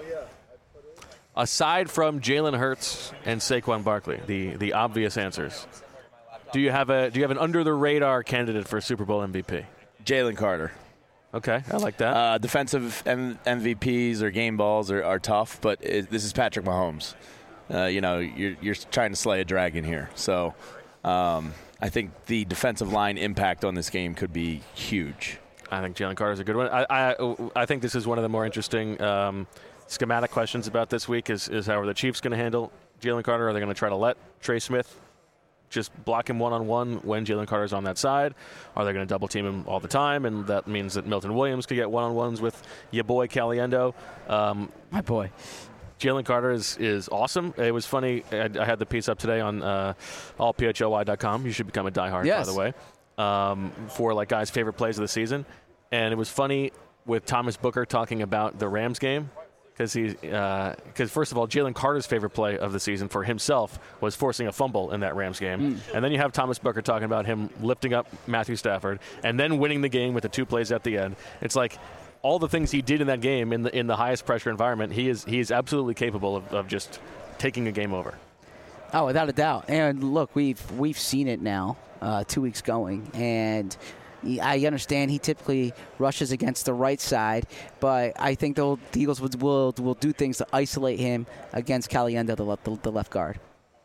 Aside from Jalen Hurts and Saquon Barkley, the the obvious answers, do you have a do you have an under-the-radar candidate for Super Bowl M V P? Jalen Carter. Okay, I like that. Uh, defensive M- MVPs or game balls are, are tough, but it, this is Patrick Mahomes. Uh, you know, you're, you're trying to slay a dragon here. So um, I think the defensive line impact on this game could be huge. I think Jalen Carter's a good one. I, I I think this is one of the more interesting um, schematic questions about this week is, is how are the Chiefs going to handle Jalen Carter? Are they going to try to let Trey Smith just block him one-on-one when Jalen Carter's on that side? Are they going to double-team him all the time? And that means that Milton Williams could get one-on-ones with your boy Caliendo. Um, My boy. Jalen Carter is, is awesome. It was funny. I, I had the piece up today on uh, all P H L Y dot com. You should become a diehard, Yes. by the way, um, for like guys' favorite plays of the season. And it was funny with Thomas Booker talking about the Rams game. Because he, because uh, first of all, Jalen Carter's favorite play of the season for himself was forcing a fumble in that Rams game, mm. and then you have Thomas Booker talking about him lifting up Matthew Stafford and then winning the game with the two plays at the end. It's like all the things he did in that game in the in the highest pressure environment. He is he is absolutely capable of, of just taking a game over. Oh, without a doubt. And look, we've we've seen it now, uh, two weeks going, and I understand he typically rushes against the right side, but I think the Eagles will, will will do things to isolate him against Caliendo, the left, the, the left guard.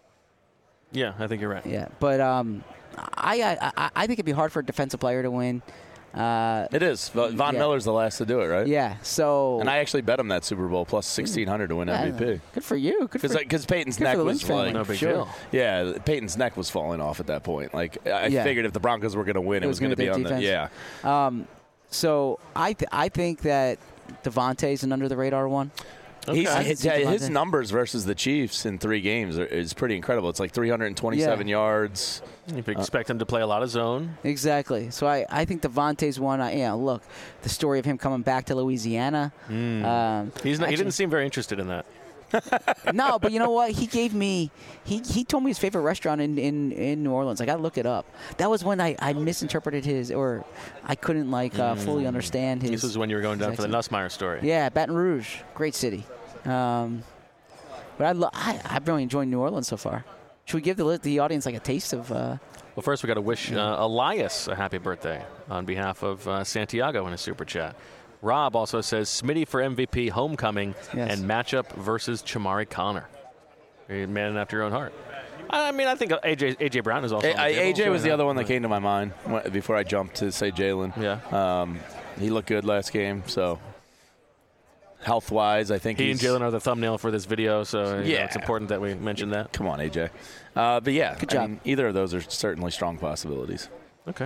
Yeah, I think you're right. Yeah, but um, I, I I think it'd be hard for a defensive player to win. Uh, It is. Von yeah. Miller's the last to do it, right? Yeah. So. And I actually bet him that Super Bowl plus sixteen hundred to win yeah, M V P. Good for you. Good for Because Peyton's good neck for the was Lynch family. like, No big Sure. deal. yeah, Peyton's neck was falling off at that point. Like I Yeah. figured if the Broncos were going to win, it, It was, was going to gonna be be on the defense. yeah. Um, so I th- I think that Devontae's an under the radar one. He's, Okay. his, I see his Devontae. numbers versus the Chiefs in three games are, is pretty incredible. It's like three hundred twenty-seven Yeah. yards. You expect him to play a lot of zone. Exactly. So I, I think Devontae's one. I, yeah, look, the story of him coming back to Louisiana. Um, He's not, he actually- didn't seem very interested in that. no, but you know what? He gave me. He, he told me his favorite restaurant in, in, in New Orleans. I got to look it up. That was when I, I misinterpreted his, or I couldn't like uh, fully understand his. This is when you were going down for the accent. Nussmeier story. Yeah, Baton Rouge, great city. Um, but I, lo- I I've really enjoyed New Orleans so far. Should we give the the audience like a taste of? Uh, Well, first we got to wish uh, Elias a happy birthday on behalf of uh, Santiago in a super chat. Rob also says Smitty for M V P, homecoming, Yes. and matchup versus Chamari Connor. You're a man after your own heart. I mean, I think A J A J Brown is also. A- on the I- table. A J was the Sure. other one that came to my mind wh- before I jumped to say Jalen. Yeah. Um, he looked good last game, so health-wise, I think He and he's, Jalen are the thumbnail for this video, so you know, Yeah. it's important that we mention that. Come on, A J. Uh, but yeah, Good I job. mean, either of those are certainly strong possibilities. Okay.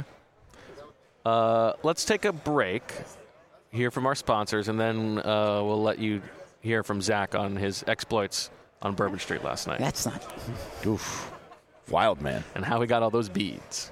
Uh, let's take a break, hear from our sponsors, and then uh, we'll let you hear from Zach on his exploits on Bourbon Street last night that's not. Oof, wild man. and how he got all those beads.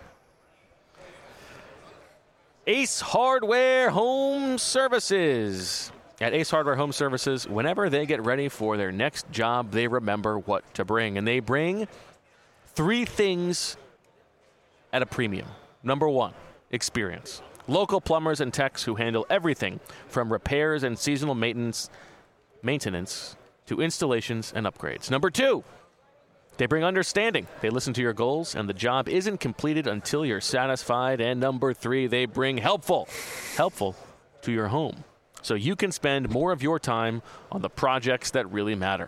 Ace Hardware Home Services. At Ace Hardware Home Services, whenever they get ready for their next job, they remember what to bring. And they bring three things at a premium. Number one, experience. Local plumbers and techs who handle everything from repairs and seasonal maintenance, maintenance to installations and upgrades. Number two, they bring understanding. They listen to your goals, and the job isn't completed until you're satisfied. And number three, they bring helpful, helpful to your home, so you can spend more of your time on the projects that really matter.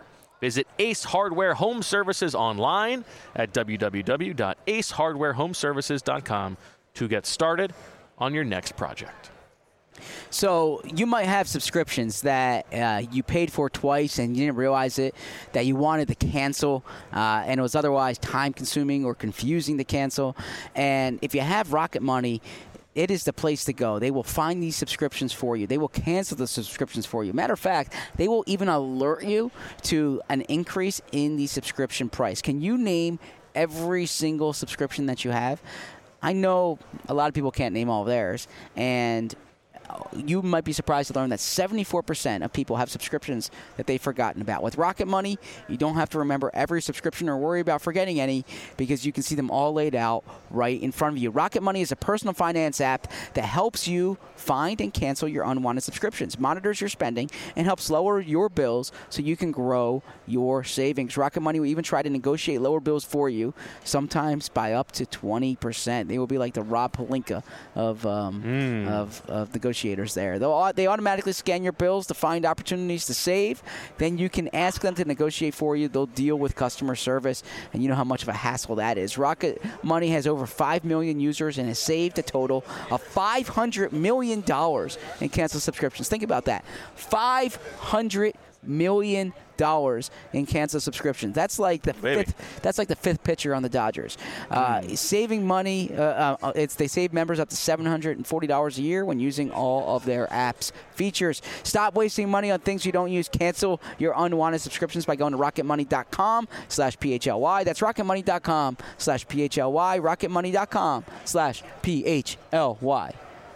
Visit Ace Hardware Home Services online at w w w dot ace hardware home services dot com to get started on your next project. So you might have subscriptions that uh, you paid for twice and you didn't realize it, that you wanted to cancel, uh, and it was otherwise time-consuming or confusing to cancel. And if you have Rocket Money, it is the place to go. They will find these subscriptions for you. They will cancel the subscriptions for you. Matter of fact, they will even alert you to an increase in the subscription price. Can you name every single subscription that you have? I know a lot of people can't name all of theirs, and you might be surprised to learn that seventy-four percent of people have subscriptions that they've forgotten about. With Rocket Money, you don't have to remember every subscription or worry about forgetting any because you can see them all laid out right in front of you. Rocket Money is a personal finance app that helps you find and cancel your unwanted subscriptions, monitors your spending, and helps lower your bills so you can grow your savings. Rocket Money will even try to negotiate lower bills for you, sometimes by up to twenty percent. They will be like the Rob Pelinka of, um, mm. of, of negotiators there. They'll, they automatically scan your bills to find opportunities to save. Then you can ask them to negotiate for you. They'll deal with customer service, and you know how much of a hassle that is. Rocket Money has over five million users and has saved a total of five hundred million dollars in canceled subscriptions. Think about that. five hundred million dollars in canceled subscriptions. That's like the Baby. fifth. That's like the fifth pitcher on the Dodgers. Uh, mm. Saving money. Uh, uh, it's they save members up to seven hundred and forty dollars a year when using all of their apps features. Stop wasting money on things you don't use. Cancel your unwanted subscriptions by going to rocketmoney dot com slash P H L Y. That's rocketmoney dot com slash P H L Y. rocketmoney dot com slash P H L Y.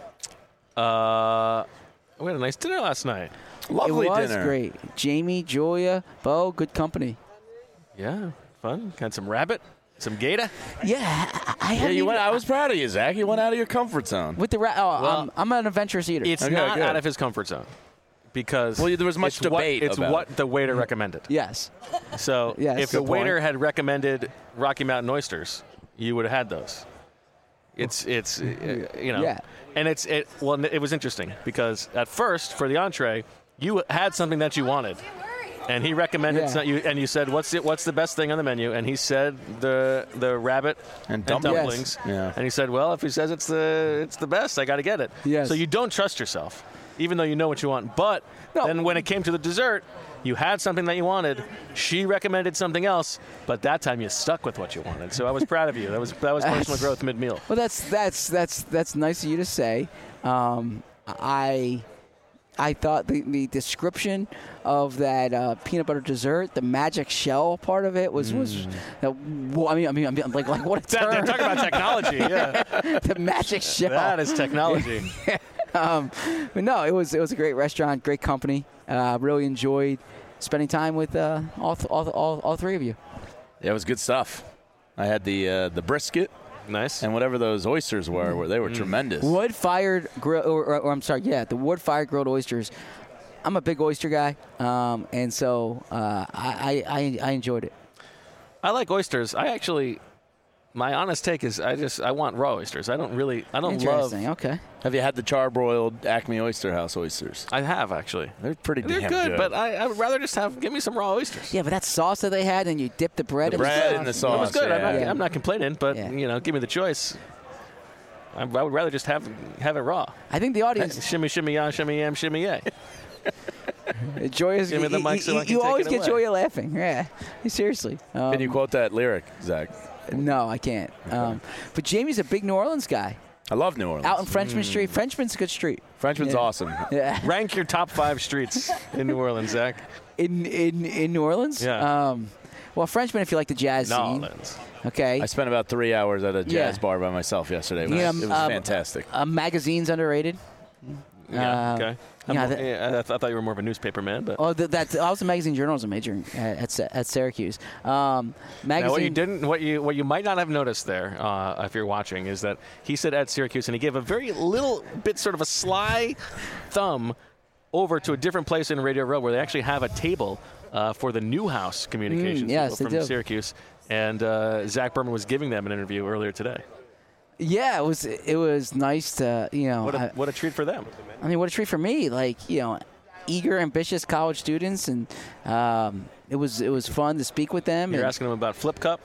Uh, we had a nice dinner last night. Lovely it was dinner. great. Jamie, Julia, Bo, good company. Yeah, fun. Had some rabbit, some gator. Yeah, I, I Yeah, haven't you went. even- I was proud of you, Zach. You went out of your comfort zone. with the ra- oh, Well, um, I'm an adventurous eater. It's Okay, not good. out of his comfort zone because Well, there was much it's what- debate It's about what it. the waiter recommended. yes. So Yes. if the Good waiter point. had recommended Rocky Mountain oysters, you would have had those. It's it's uh, you know, Yeah. and it's it. Well, it was interesting because at first for the entree, you had something that you wanted, and he recommended Yeah. some, you, and you said, "What's it? What's the best thing on the menu?" And he said the the rabbit And dumplings. dumplings. Yes. Yeah. And he said, "Well, if he says it's the it's the best, I got to get it." Yes. So you don't trust yourself, even though you know what you want. But No. then when it came to the dessert, you had something that you wanted. She recommended something else, but that time you stuck with what you wanted. So I was proud of you. That was that was personal growth mid meal. Well, that's that's that's that's nice of you to say. Um, I I thought the, the description of that uh, peanut butter dessert, the magic shell part of it was was. Uh, well, I mean, I mean, I mean, like like what a term. Talk about technology. Yeah, the magic shell. that is technology. um, but no, it was it was a great restaurant, great company. Uh, really enjoyed spending time with uh, all, th- all, all all three of you. Yeah, it was good stuff. I had the uh, the brisket Nice. and whatever those oysters were. were they were tremendous. Wood fired grill, or, or, or I'm sorry, yeah, the wood fired grilled oysters. I'm a big oyster guy, um, and so uh, I, I I enjoyed it. I like oysters. I actually, my honest take is, I just I want raw oysters. I don't really. I don't love. Interesting. Okay. Have you had the charbroiled Acme Oyster House oysters? I have actually. They're pretty They're damn good, good. but I, I would rather just have give me some raw oysters. Yeah, but that sauce that they had, and you dip the bread The in bread the and the sauce. It was sauce, good. I'm, not, yeah. I'm not complaining, but Yeah. you know, give me the choice. I, I would rather just have have it raw. I think the audience Shimmy, shimmy, ya, shimmy, yam, shimmy, yay. Joy is. Give me the you- mic you, so I can you take always it get away. Joya laughing. Yeah, seriously. Um, Can you quote that lyric, Zach? No, I can't. Um, but Jamie's a big New Orleans guy. I love New Orleans. Out in Frenchman Street. Frenchman's a good street. Frenchman's Yeah. awesome. Yeah. Rank your top five streets in New Orleans, Zach. In in in New Orleans. Yeah. Um, well, Frenchman, if you like the jazz New scene. Orleans. Okay. I spent about three hours at a jazz Yeah. bar by myself yesterday. It was, Yeah, it was um, fantastic. Uh, magazine's underrated. Yeah. Uh, okay. I'm yeah, more- that- yeah, I, th- I thought you were more of a newspaper man, but. Oh, th- that I was a magazine journalism major at at, Sy- at Syracuse. Um, magazine. Now, what you didn't, what you, what you might not have noticed there, uh, if you're watching, is that he said at Syracuse, and he gave a very little bit, sort of a sly thumb, over to a different place in Radio Row where they actually have a table uh, for the Newhouse Communications Mm, yes, people they from do. Syracuse, and uh, Zach Berman was giving them an interview earlier today. Yeah, it was it was nice to you know. What a, I, what a treat for them. I mean, what a treat for me. Like you know, eager, ambitious college students, and um, it was it was fun to speak with them. You're and asking them about Flip Cup?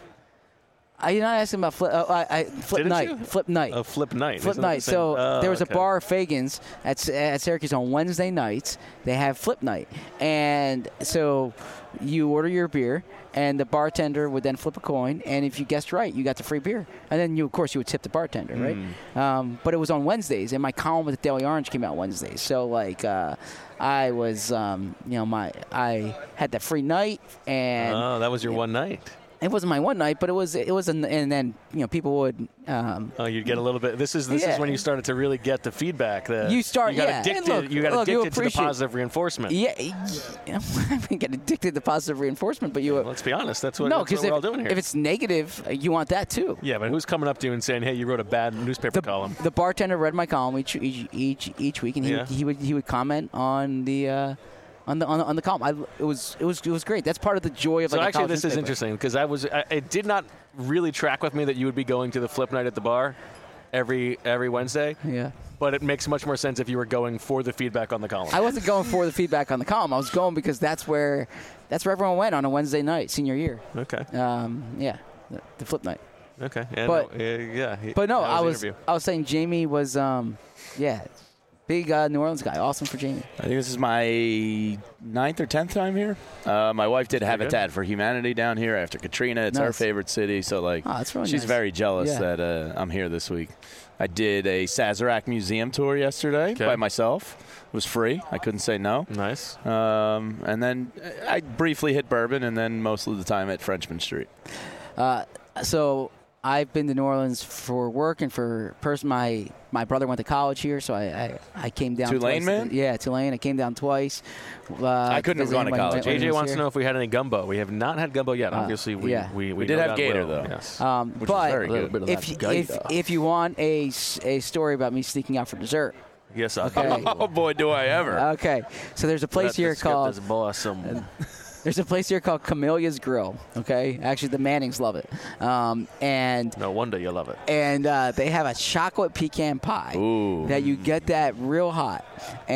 I, you're not asking about flip, uh, I, I, flip Didn't night. you? Flip night. Oh, Flip Night. Flip Isn't that night. the same- So Oh, there was okay. a bar, Fagan's, at, at Syracuse on Wednesday nights. They have flip night. And so you order your beer, and the bartender would then flip a coin. And if you guessed right, you got the free beer. And then, you, of course, you would tip the bartender, right? Hmm. Um, but it was on Wednesdays, and my column with the Daily Orange came out Wednesdays. So, like, uh, I was, um, you know, my I had that free night, and Oh, that was your one night. it wasn't my one night, but it was it was, an, and then you know people would. Um, Oh, you'd get a little bit. This is this is Yeah. when you started to really get the feedback. That You start- You got yeah. addicted. And look- you got look, you addicted to the appreciate- positive reinforcement. Yeah, yeah. I didn't get addicted to positive reinforcement, but you. Let's be honest. That's what, no, that's what because we're if, all doing here. if it's negative, uh, you want that too. yeah, but who's coming up to you and saying, "Hey, you wrote a bad newspaper The, column"? the bartender read my column each each each, each week, and he, Yeah. would, he would he would comment on the. Uh, on the, on the on the column, I, it was it was it was great. That's part of the joy of So like a actually, college this is newspaper. interesting because I was I, it did not really track with me that you would be going to the Flip Night at the bar every every Wednesday. Yeah, But it makes much more sense if you were going for the feedback on the column. I wasn't going for the feedback on the column. I was going because that's where that's where everyone went on a Wednesday night, senior year. okay. Um, yeah, the, the flip night. Okay. Yeah. But- no, uh, yeah. he- But no, that I the was interview. I was saying Jamie was um, yeah, big uh, New Orleans guy. Awesome for Jamie. I think this is my ninth or tenth time here. Uh, my wife did Habitat for Humanity down here after Katrina. It's our Nice. favorite city, so like Oh, that's really she's nice. very jealous Yeah. that uh, I'm here this week. I did a Sazerac museum tour yesterday Okay. by myself. It was free. I couldn't say no. Nice. Um, and then I briefly hit Bourbon, and then most of the time at Frenchman Street. Uh, so I've been to New Orleans for work and for person. My my brother went to college here, so I I, I came down. Tulane, twice. man? Yeah, Tulane. I came down twice. Uh, I couldn't have visit gone him to when- college. when A he J was wants to here. know if we had any gumbo. We have not had gumbo yet. Uh, Obviously, we yeah. we, we, We did no have doubt Gator, will. though. Yes. Um, Which is but very good. good. Little if bit of if, that if you want a, s- a story about me sneaking out for dessert, yes. I Okay. Oh boy, do I ever! okay. So there's a place here called This boy some. there's a place here called Camellia's Grill. Okay, actually the Mannings love it, um, and No wonder you love it. and uh, they have a chocolate pecan pie Ooh. that you get that real hot,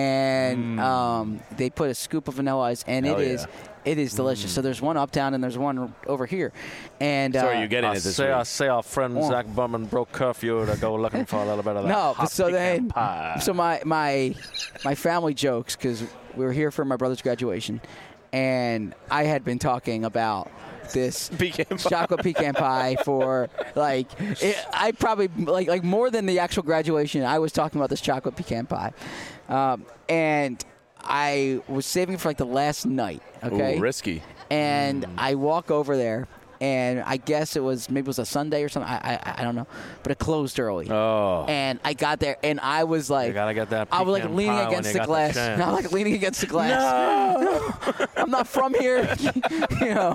and um, they put a scoop of vanilla ice, and Hell it yeah. is it is delicious. So there's one uptown and there's one over here, and So uh, are you getting I it this say, I week? say our friend Oh. Zach Bumman broke curfew to go looking for a little bit of that. No, hot but so pecan then, pie. so my my my family jokes because we were here for my brother's graduation, and I had been talking about this Pecan pie. chocolate pecan pie for like it, I probably like like more than the actual graduation. I was talking about this chocolate pecan pie, um, and I was saving it for like the last night. Okay, Ooh, risky. and I walk over there. And I guess it was maybe it was a Sunday or something. I I, I don't know, but it closed early. Oh. And I got there, and I was like, You gotta get that. I was like pecan leaning pie when against you the got glass. chance. I was like leaning against the glass. I'm not from here, you know.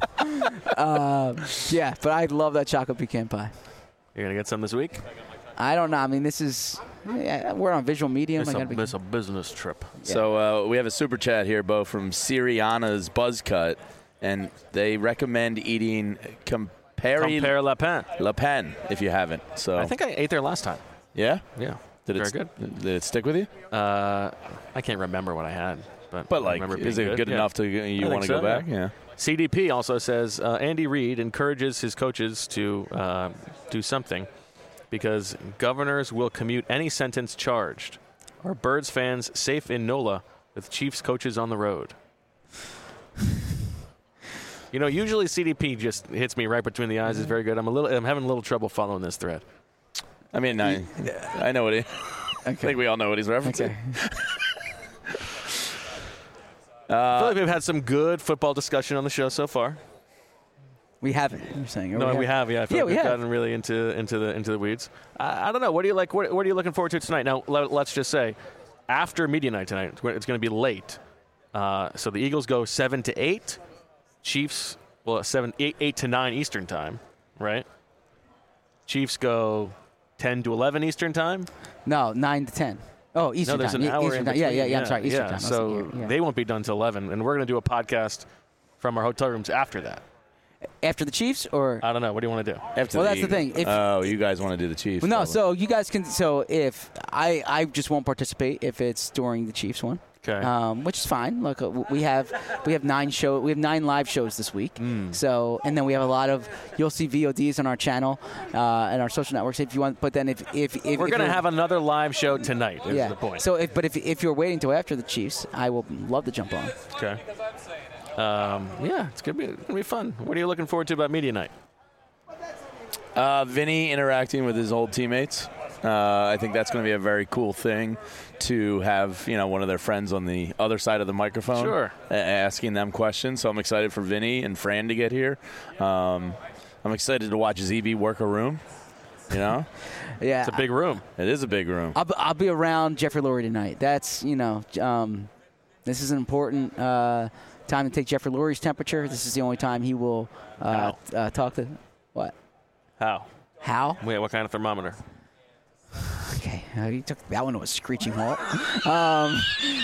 Uh, yeah, but I love that chocolate pecan pie. You're gonna get some this week. I don't know. I mean, this is yeah, we're on visual medium. It's I a, gotta be, it's a business trip. So uh, we have a super chat here, Bo, from Siriana's Buzz Cut, and they recommend eating Campari Compare La Pen. Le Pen if you haven't. So I think I ate there last time. yeah, Yeah. did Very it good. Did it stick with you? Uh, I can't remember what I had, but But I like, remember is being it good, Yeah. enough to you think want to so, go back? yeah. Yeah. C D P also says uh, Andy Reid encourages his coaches to uh, do something because governors will commute any sentence charged. Are Birds fans safe in NOLA with Chiefs coaches on the road? You know, usually C D P just hits me right between the eyes. It's very good. I'm a little. I'm having a little trouble following this thread. I mean, I, I know what he. I think we all know what he's referencing. okay. I feel like we've had some good football discussion on the show so far. We haven't. You're saying? Or No, we have. Yeah, I feel Yeah, like we we've have. gotten really into into the into the weeds. I, I don't know. What do you like? What, what are you looking forward to tonight? Now, let, let's just say, after media night tonight, it's going to be late. Uh, so the Eagles go seven to eight. Chiefs, well, seven, eight, eight to nine Eastern time, right? Chiefs go ten to eleven Eastern time. No, nine to ten. Oh, Eastern no, there's time. an Ye- hour Eastern in time. between. Yeah, yeah, yeah. I'm sorry, Eastern yeah. time. I was So thinking, yeah. they won't be done until eleven, and we're going to do a podcast from our hotel rooms after that. After the Chiefs, or I don't know. What do you want to do? After Well, the that's the Eagles. thing. If- oh, you guys want to do the Chiefs? well, no. probably. So you guys can. So if I, I just won't participate if it's during the Chiefs one. Okay. Um, which is fine. Look, uh, we have we have nine show we have nine live shows this week. Mm. So and then we have a lot of you'll see V O Ds on our channel uh, and our social networks if you want. But then if if, if We're if going to you're- have another live show tonight. Is yeah. the point. So if but if if you're waiting till after the Chiefs, I will love to jump on. Okay. Um, yeah, it's gonna be gonna be fun. What are you looking forward to about media night? Uh, Vinny interacting with his old teammates. Uh, I think that's going to be a very cool thing to have, you know, one of their friends on the other side of the microphone Sure. a- asking them questions. So I'm excited for Vinny and Fran to get here. Um, I'm excited to watch Z B work a room. You know, Yeah, It's a big room. it is a big room. I'll, be- I'll be around Jeffrey Lurie tonight. That's, you know, um, this is an important uh, time to take Jeffrey Lurie's temperature. This is the only time he will uh, uh, talk to. What? How? How? Wait, what kind of thermometer? Okay, uh, you took that one to a screeching halt. Um,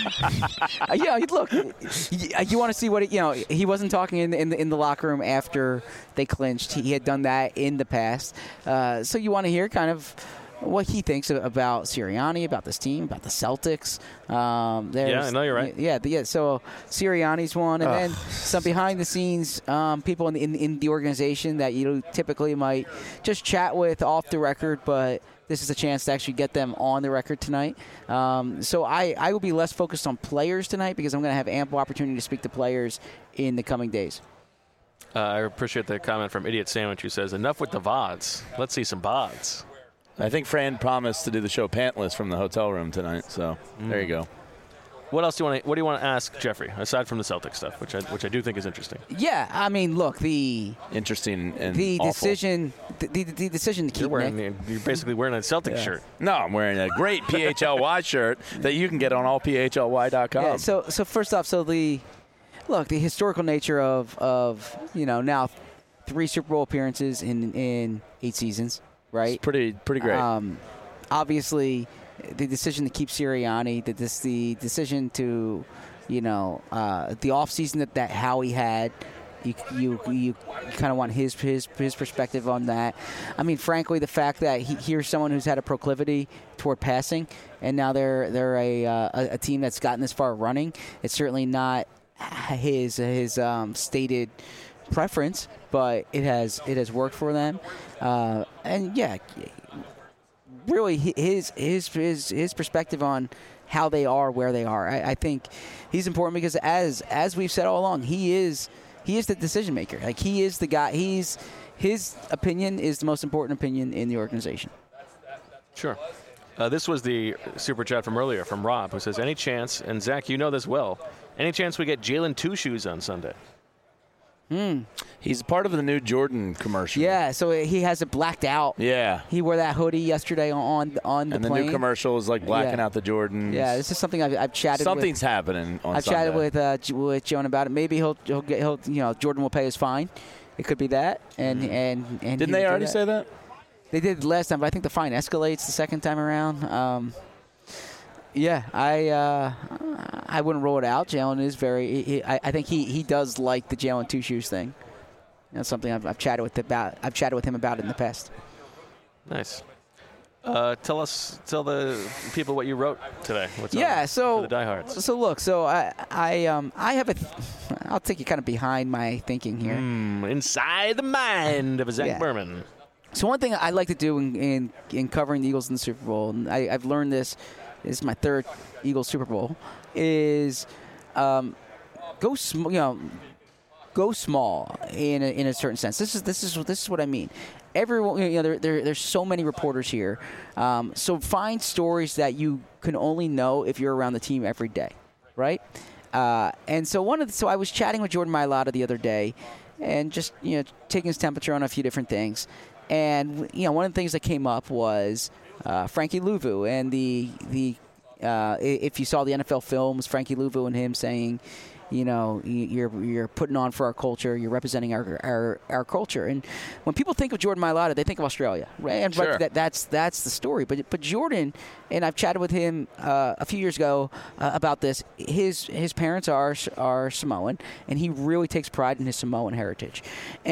uh, yeah, look, you, you want to see what it, you know. He wasn't talking in the, in the in the locker room after they clinched. He had done that in the past, uh, so you want to hear kind of what he thinks about Sirianni, about this team, about the Celtics. Um, there's- Yeah, I know you're right. Yeah, the- yeah. So Sirianni's one, and then some behind the scenes um, people in the, in, in the organization that you typically might just chat with off the record, but this is a chance to actually get them on the record tonight. Um, so I, I will be less focused on players tonight because I'm going to have ample opportunity to speak to players in the coming days. Uh, I appreciate the comment from Idiot Sandwich who says, enough with the V O Ds. Let's see some B O Ds. I think Fran promised to do the show pantless from the hotel room tonight. So there you go. What else do you want to, what do you want to ask Jeffrey, aside from the Celtic stuff, which I, which I do think is interesting? Yeah, I mean, look, the Interesting and the awful. decision the, the, the decision to You're keep wearing, Nick. you're basically wearing a Celtic shirt. No, I'm wearing a great P H L Y shirt that you can get on all P H L Y dot com. Yeah, so so first off, so the look, the historical nature of of you know now three Super Bowl appearances in in eight seasons, right? It's pretty pretty great. Um, obviously, the decision to keep Sirianni, the this the decision to, you know, uh, the offseason that that Howie had. You you you kind of want his his his perspective on that. I mean, frankly, the fact that he, here's someone who's had a proclivity toward passing, and now they're they're a uh, a, a team that's gotten this far running. It's certainly not his his um, stated preference, but it has it has worked for them. Uh, and yeah, really his his his his perspective on how they are where they are. I, I think he's important because as as we've said all along, he is he is the decision maker. Like he is the guy. He's his opinion is the most important opinion in the organization. Sure. Uh, this was the super chat from earlier from Rob, who says, any chance, and Zach, you know this well, any chance we get Jalen Two Shoes on Sunday? Hmm. He's part of the new Jordan commercial. Yeah, so he has it blacked out. Yeah. He wore that hoodie yesterday on on the And the plane. new commercial is like blacking Yeah. out the Jordans. Yeah, this is something I've, I've chatted. Something's with, happening on I've Sunday. chatted with uh, J- with Joan about it. Maybe he'll he'll get he'll you know Jordan will pay his fine. It could be that. And and and Didn't he they will do already that. say that? They did last time, but I think the fine escalates the second time around. Um, yeah, I uh, I wouldn't rule it out. Jalen is very. He, he- I, I think he, he does like the Jalen Two Shoes thing. That's something I've, I've chatted with about. I've chatted with him about it in the past. Nice. Uh, tell us, tell the people what you wrote today. What's Yeah, on so for the diehards. so look, so I I um I have a. Th- I'll take you kind of behind my thinking here. Mm, inside the mind of Zach Yeah. Berman. So one thing I like to do in, in, in covering the Eagles in the Super Bowl, and I, I've learned this, this is my third Eagles Super Bowl, is um, go sm- you know go small in a, in a certain sense. This is this is this is what I mean. Everyone, you know, there, there there's so many reporters here, um, so find stories that you can only know if you're around the team every day, right? Uh, and so one of the, so I was chatting with Jordan Mailata the other day, and just you know taking his temperature on a few different things. And you know, one of the things that came up was uh, Frankie Louvu and the the uh, if you saw the N F L films, Frankie Louvu and him saying, you know, you're you're putting on for our culture. You're representing our our, our culture. And when people think of Jordan Mailata, they think of Australia, right? And Sure. right, that, that's that's the story. But but Jordan, and I've chatted with him uh, a few years ago uh, about this. His his parents are are Samoan, and he really takes pride in his Samoan heritage.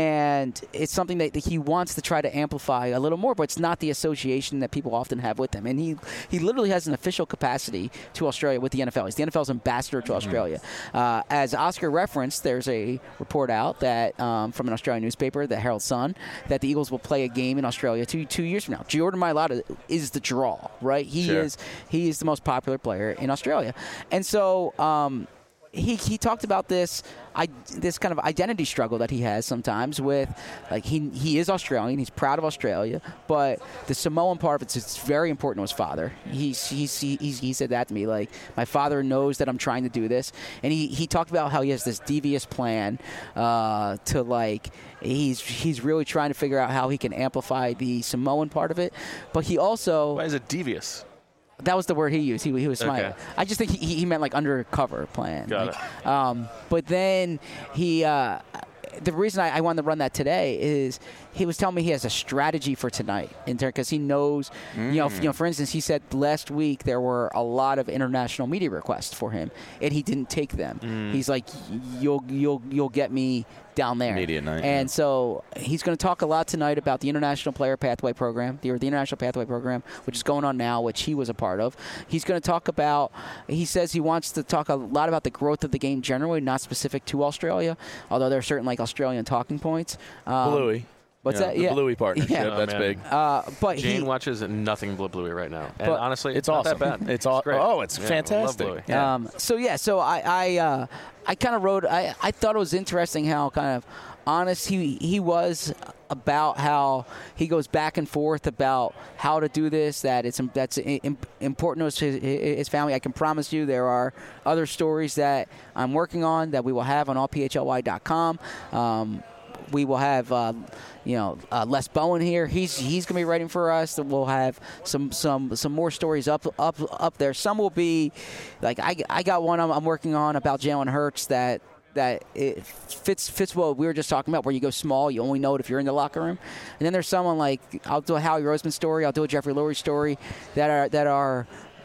And it's something that, that he wants to try to amplify a little more, but it's not the association that people often have with him. And he, he literally has an official capacity to Australia with the N F L. He's the N F L's ambassador to Australia. Uh, as Oscar referenced, there's a report out that um, from an Australian newspaper, the Herald Sun, that the Eagles will play a game in Australia two two years from now. Jordan Mailata is the draw, right? He Sure. is he is the most popular player in Australia, and so. Um, He, he talked about this I, this kind of identity struggle that he has sometimes with, like, he he is Australian, he's proud of Australia, but the Samoan part of it, it's very important to his father. He's, he's, he, he's, he said that to me, like, my father knows that I'm trying to do this. And he, he talked about how he has this devious plan uh, to, like, he's he's really trying to figure out how he can amplify the Samoan part of it. But he also... Why is it devious? That was the word he used. He, he was smiling. Okay. I just think he, he meant like undercover plan. Got like, it. Um, but then he, uh, the reason I, I wanted to run that today is he was telling me he has a strategy for tonight in turn because he knows, mm. you know, you know. For instance, he said last week there were a lot of international media requests for him, and he didn't take them. Mm. He's like, you'll you'll you'll get me down there. Media night. And yeah. so he's going to talk a lot tonight about the International Player Pathway Program, the, or the International Pathway Program, which is going on now, which he was a part of. He's going to talk about, he says he wants to talk a lot about the growth of the game generally, not specific to Australia, although there are certain like Australian talking points. Um, Bluey. What's yeah, that? The Yeah. Bluey partnership. Yeah. Oh, That's man. big. Uh, but Jane he, watches nothing but Bluey right now. And But honestly, It's not awesome. that bad. It's all. great. Oh, it's Yeah, I love fantastic. Bluey. Yeah. Um, so yeah, so I I, uh, I kind of wrote. I, I thought it was interesting how kind of honest he he was about how he goes back and forth about how to do this. That it's that's important to his, his family. I can promise you there are other stories that I'm working on that we will have on all P H L Y dot com. Um, we will have, uh, you know, uh, Les Bowen here. He's he's going to be writing for us. We'll have some some some more stories up up up there. Some will be, like I, I got one I'm, I'm working on about Jalen Hurts that that it fits fits what we were just talking about, where you go small, you only know it if you're in the locker room. And then there's someone like I'll do a Howie Roseman story, I'll do a Jeffrey Lurie story that are that are.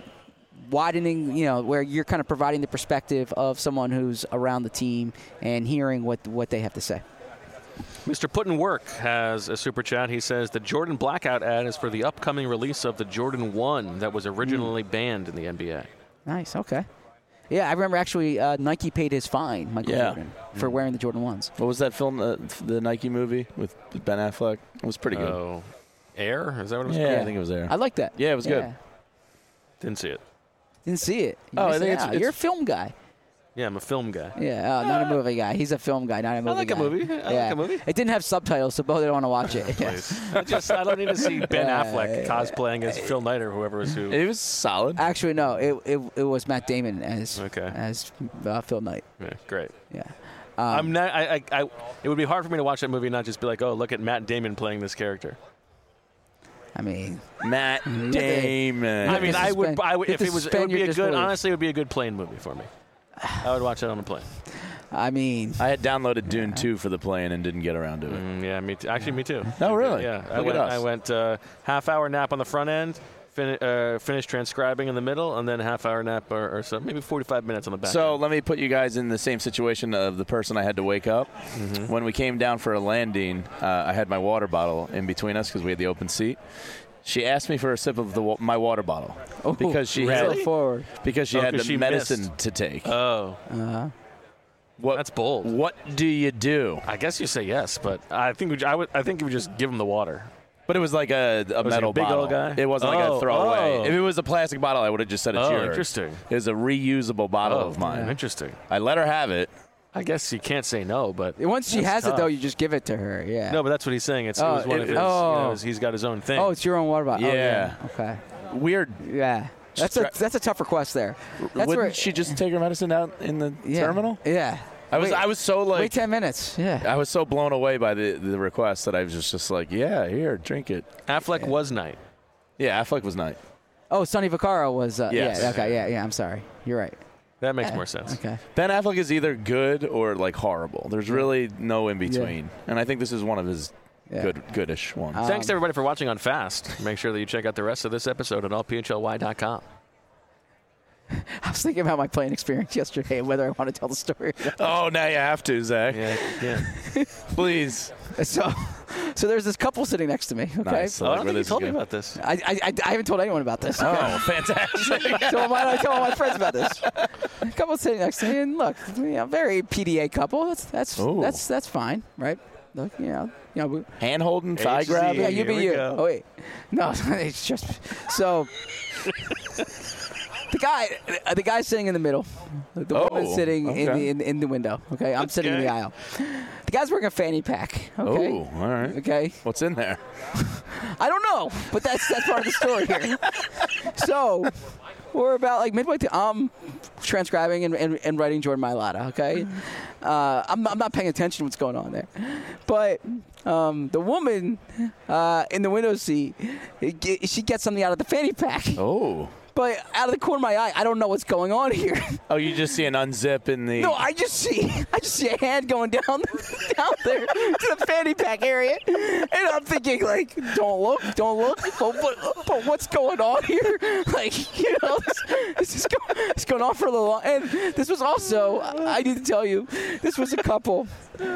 widening, you know, where you're kind of providing the perspective of someone who's around the team and hearing what what they have to say. Mister Puttin Work has a super chat. He says the Jordan Blackout ad is for the upcoming release of the Jordan one that was originally mm. banned in the N B A. Nice. Okay. Yeah, I remember actually uh, Nike paid his fine, Michael yeah. Jordan, for wearing the Jordan ones. What was that film, uh, the Nike movie with Ben Affleck? It was pretty good. Oh, Air? Is that what it was Yeah, called? I think it was Air. I like that. Yeah, it was good. Yeah. Didn't see it. Didn't see it. You Oh, I missed think it it's- out. it's- You're a film guy. Yeah, I'm a film guy. Yeah, uh, not a movie guy. He's a film guy, not a movie like a guy. movie. I like yeah. a movie. It didn't have subtitles, so both didn't want to watch it. Please. I just I don't need to see Ben Yeah, Affleck yeah, cosplaying as Phil Knight or whoever was who. It was solid. Actually, no. It, it it was Matt Damon as Okay. as uh, Phil Knight. Yeah, great. Yeah. I'm not. I, I, I. It would be hard for me to watch that movie and not just be like, oh, look at Matt Damon playing this character. I mean, Matt Yeah. Damon. I mean, to I would. suspend- I would you if have it to was. It suspend would be your a good. disbelief. Honestly, it would be a good plane movie for me. I would watch that on a plane. I mean, I had downloaded Dune two for the plane and didn't get around to it. Mm, yeah, me too. Actually, me too. Oh, really? Yeah. I Look went. at us. I went uh, half hour nap on the front end. Fin- uh, finished transcribing in the middle, and then a half hour nap or, or so, maybe forty-five minutes on the back. So end. let me put you guys in the same situation of the person I had to wake up. Mm-hmm. When we came down for a landing, uh, I had my water bottle in between us because we had the open seat. She asked me for a sip of the wa- my water bottle oh, because she really? had forward. because she Oh, had 'cause the she medicine missed. to take. Oh, Uh-huh. what that's bold. What do you do? I guess you say yes, but I think we, I would. I think you would just give him the water. But it was like a, a Was he a metal big bottle. old guy? It wasn't like Oh, a throwaway. oh. If it was a plastic bottle, I would have just said it's Oh, yours. interesting. It was a reusable bottle Oh, of mine. interesting. I let her have it. I guess you can't say no, but Once she that's has tough. it, though, you just give it to her. Yeah. No, but that's what he's saying. It's, Oh, it was one it- of his. oh. You know, he's got his own thing. Oh, it's your own water bottle. Oh, Yeah. Okay. Weird. Yeah. That's a that's a tough request there. That's Wouldn't where, she just take her medicine out in the yeah. terminal? Yeah. I was Wait- I was so like Wait ten minutes. Yeah. I was so blown away by the, the request that I was just, just like, yeah, here, drink it. Affleck was Knight. Yeah, Affleck was nice. Oh, Sonny Vaccaro was. Uh, Yes. Yeah. Okay. Yeah. Yeah. I'm sorry. You're right. That makes more sense. Okay. Ben Affleck is either good or like horrible. There's really no in between, and I think this is one of his Yeah. good, goodish ones. Um, Thanks to everybody for watching on Fast. Make sure that you check out the rest of this episode at all p h l y dot com. I was thinking about my playing experience yesterday and whether I want to tell the story. Oh, now you have to, Zach. Yeah, yeah. Please. So, so there's this couple sitting next to me. Okay. Nice. Oh, I I like don't where think you this is told me going. about this. I, I, I, I haven't told anyone about this. Oh, fantastic. So why don't I tell all my friends about this? A couple sitting next to me, and look, you know, very P D A couple. That's that's Ooh. that's that's fine, right? Look, you know, you know. We, Hand holding, thigh H Z. grabbing. yeah, you be Here we you. go. Oh wait, no, it's just so. The guy, uh, the guy sitting in the middle, the Oh, woman sitting in, okay. the, in in the window. Okay, I'm sitting in the Okay. aisle. The guy's wearing a fanny pack. Okay. Oh, all right. Okay. What's in there? I don't know, but that's that's part of the story here. So we're about like midway through. I'm transcribing and, and, and writing Jordan Mailata. Okay, uh, I'm I'm not paying attention to what's going on there, but um, the woman uh, in the window seat, she gets something out of the fanny pack. Oh. But out of the corner of my eye, I don't know what's going on here. Oh, you just see an unzip in the. No, I just see I just see a hand going down down there to the fanny pack area, and I'm thinking like, don't look, don't look. But, but, but what's going on here? Like, you know, this, this is go, it's going on for a little while. And this was also, I need to tell you, this was a couple.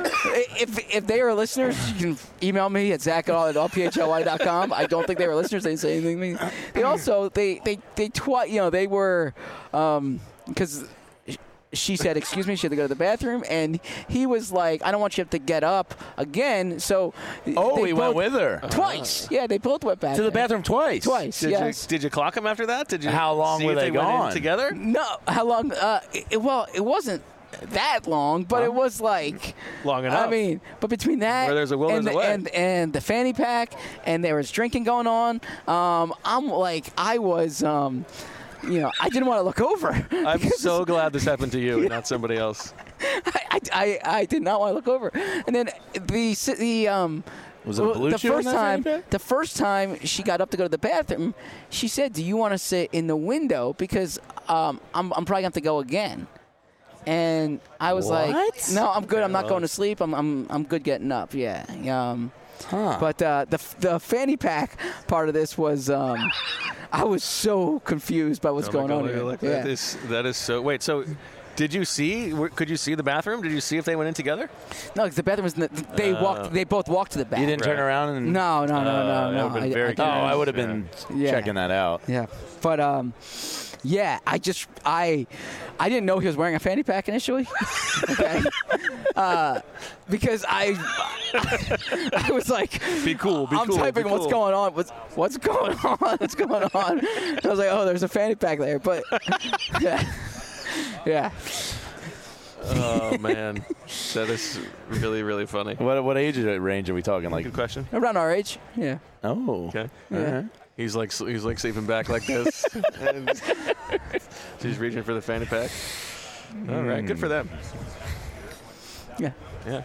If if they are listeners, you can email me at zach at all p h l y dot com. I don't think they were listeners. They didn't say anything to me. They also they they they twi- you know they were because. Um, she said, excuse me, she had to go to the bathroom, and he was like, I don't want you to have to get up again. So Oh, they he both, went with her. twice. Yeah, they both went back To the there. bathroom twice. Twice, Did yes. you did you clock him after that? Did you? How long see were if they they went in gone? together? No, how long? Uh, it, well, it wasn't that long, but it was like Long enough. I mean, but between that Where there's a will, and, there's a the, way. and and the fanny pack, and there was drinking going on. Um, I'm like, I was, um, you know, I didn't want to look over. I'm because so glad this happened to you and not somebody else. I, I, I did not want to look over. And then the the um. Was it a blue the chew in first that time? fanny pack? The first time she got up to go to the bathroom, she said, "Do you want to sit in the window because um, I'm I'm probably gonna have to go again." And I was like, What? "No, I'm good. I'm not going to sleep. I'm I'm I'm good getting up." Yeah. Um, Huh. But uh, the the fanny pack part of this was um, I was so confused by what's Oh my going God, on look- here. look, Yeah. That is that is so. Wait, so did you see? w- Could you see the bathroom? Did you see if they went in together? No, 'cause the bathroom was. In the, they Uh, walked. They both walked to the bathroom. You didn't turn Right. around and. No, no, no, Uh, no, that no. would've been I- very I Oh, didn't. I would have been Yeah. checking that out. Yeah, but um, yeah, I just I I didn't know he was wearing a fanny pack initially. Okay, uh, because I I was like, Be cool. Be I'm cool. typing be what's cool. going on. What's what's going on? What's going on? And I was like, oh, there's a fanny pack there, but yeah, yeah. Oh man, that is really really funny. What what age range are we talking? Like, Good question. Around our age, yeah. oh, Okay. all right. He's like he's like sleeping back like this. And she's reaching for the fanny pack. All right, good for them. Yeah. Yeah.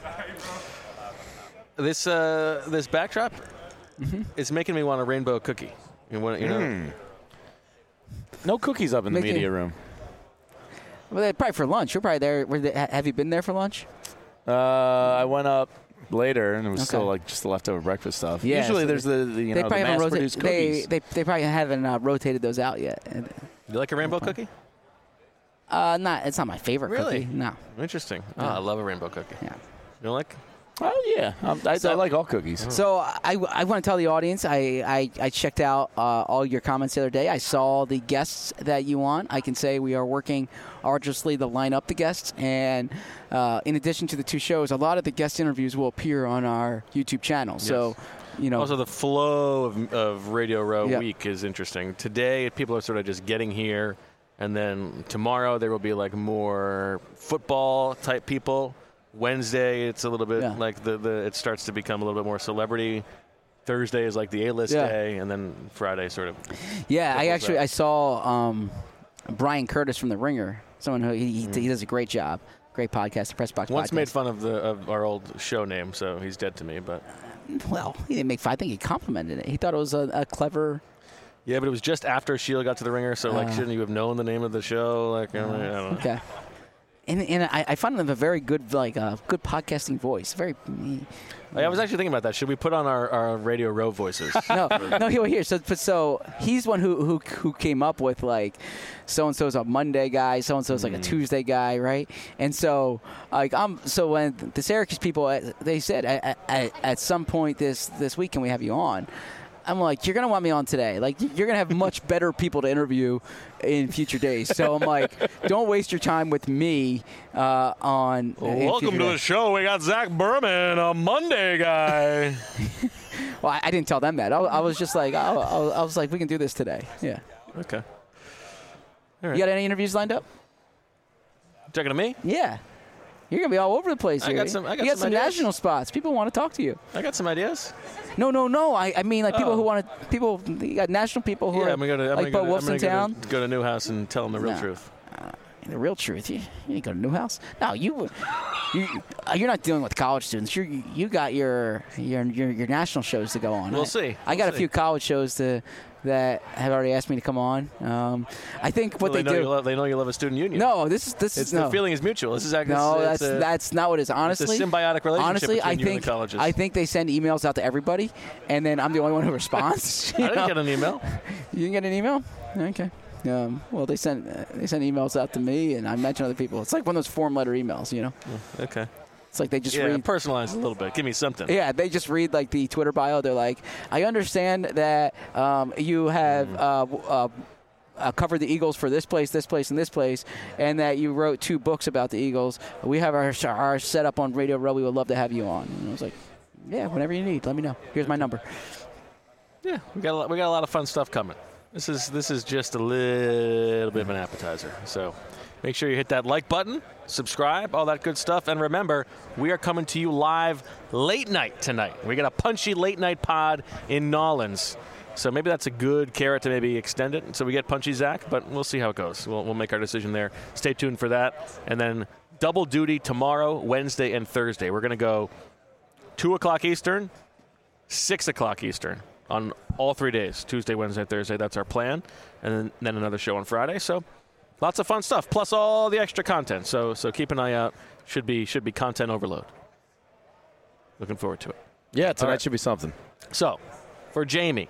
This uh, this backdrop Mm-hmm. is making me want a rainbow cookie. You want you know? Mm. No cookies up in the Making- media room. Well, they probably for lunch. You're probably there. Were they, ha- have you been there for lunch? Uh, I went up later, and it was Okay. still like just the leftover breakfast stuff. Yeah, Usually, so there's the, the you they know the probably haven't rotated. mass-produced They, cookies. they they probably haven't uh, rotated those out yet. And, You like a rainbow cookie? Uh, not. It's not my favorite Really? cookie. No. Interesting. Oh, I love a rainbow cookie. Yeah. You don't like? Oh yeah, um, I, So- I like all cookies. So I, I want to tell the audience I, I, I checked out uh, all your comments the other day. I saw the guests that you want. I can say we are working arduously to line up the guests. And uh, in addition to the two shows, a lot of the guest interviews will appear on our YouTube channel. So, you know. Also, the flow of, of Radio Row Yeah. week is interesting. Today, people are sort of just getting here, and then tomorrow there will be like more football type people. Wednesday, it's a little bit Yeah. like the, the it starts to become a little bit more celebrity. Thursday is like the A-list Yeah. day, and then Friday sort of. yeah, I Triple actually that. I saw um, Brian Curtis from The Ringer. Someone who he, he, he does a great job. Great podcast, the Press Box Once podcast. made fun of the of our old show name, so he's dead to me. But Well, he didn't make fun. I think he complimented it. He thought it was a, a clever Yeah, but it was just after Sheila got to the Ringer, so like, Uh. shouldn't you have known the name of the show? Like, I don't know. Okay. And, and I, I find them a very good, like, uh, good podcasting voice. Very. I was actually thinking about that. Should we put on our, our Radio Row voices? No, no. Here, here. So, but so he's one who who who came up with like, so and so's a Monday guy, so and so's like a Tuesday guy, right? And so, like, I'm so when the Syracuse people, uh, they said at, at, at some point this this week, can we have you on? I'm like, you're going to want me on today. Like, you're going to have much better people to interview in future days. So I'm like, don't waste your time with me uh, on. Well, in welcome future to the days. show. We got Zach Berman, a Monday guy. Well, I, I didn't tell them that. I, I was just like, I, I, I was like, we can do this today. Yeah. Okay. You got any interviews lined up? Talking to me? Yeah. You're going to be all over the place I here. got some- I got you got some some, ideas. national spots. People want to talk to you. I got some ideas. No, no, no. I, I mean, like, people Oh. who want to, people, you got national people who Yeah, are I'm gonna go to I'm like gonna Bo go to, Wolf's I'm in gonna town. Go to, go to Newhouse and tell them the real No. truth. The real truth. You, you ain't go to Newhouse. No, you, you, uh, you're not dealing with college students. You, you got your, your, your, your national shows to go on. We'll I, see. I got We'll a few see. college shows to that have already asked me to come on. Um, I think what Well, they, know do. You love, they know you love a student union. No, this is this It's is no. the feeling is mutual. This is actually No, it's that's a, that's not what it is. Honestly, symbiotic relationship Honestly, between I you and the think colleges. I think they send emails out to everybody, and then I'm the only one who responds. you I didn't know? get an email. You didn't get an email? Okay. Um, well, they sent uh, they send emails out to me, and I mention other people. It's like one of those form letter emails, you know. Okay. It's like they just Yeah, read. personalize a little bit. Give me something. Yeah, they just read like the Twitter bio. They're like, I understand that um, you have Mm. uh, w- uh, uh, covered the Eagles for this place, this place, and this place, and that you wrote two books about the Eagles. We have our our setup on Radio Row. We would love to have you on. And I was like, yeah, whenever you need, let me know. Here's my number. Yeah, we got a lot, we got a lot of fun stuff coming. This is this is just a little bit of an appetizer. So make sure you hit that like button, subscribe, all that good stuff, and remember, we are coming to you live late night tonight. We got a punchy late night pod in Nolans. So maybe that's a good carrot to maybe extend it so we get punchy Zach, but we'll see how it goes. We'll, we'll make our decision there. Stay tuned for that. And then double duty tomorrow, Wednesday, and Thursday. We're going to go two o'clock Eastern, six o'clock Eastern on all three days, Tuesday, Wednesday, Thursday. That's our plan. And then, then another show on Friday. So lots of fun stuff, plus all the extra content. So so keep an eye out. Should be should be content overload. Looking forward to it. Yeah, tonight right. should be something. So for Jamie,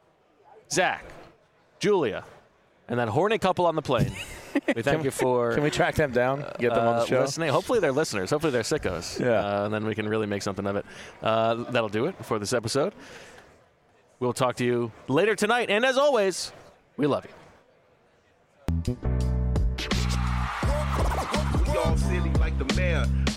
Zach, Julia, and that horny couple on the plane, we thank you for Can we track them down? Get them on uh, the show? listening. Hopefully they're listeners. Hopefully they're sickos. Yeah. Uh, and then we can really make something of it. Uh, that'll do it for this episode. We'll talk to you later tonight. And as always, we love you. We all silly like the mayor.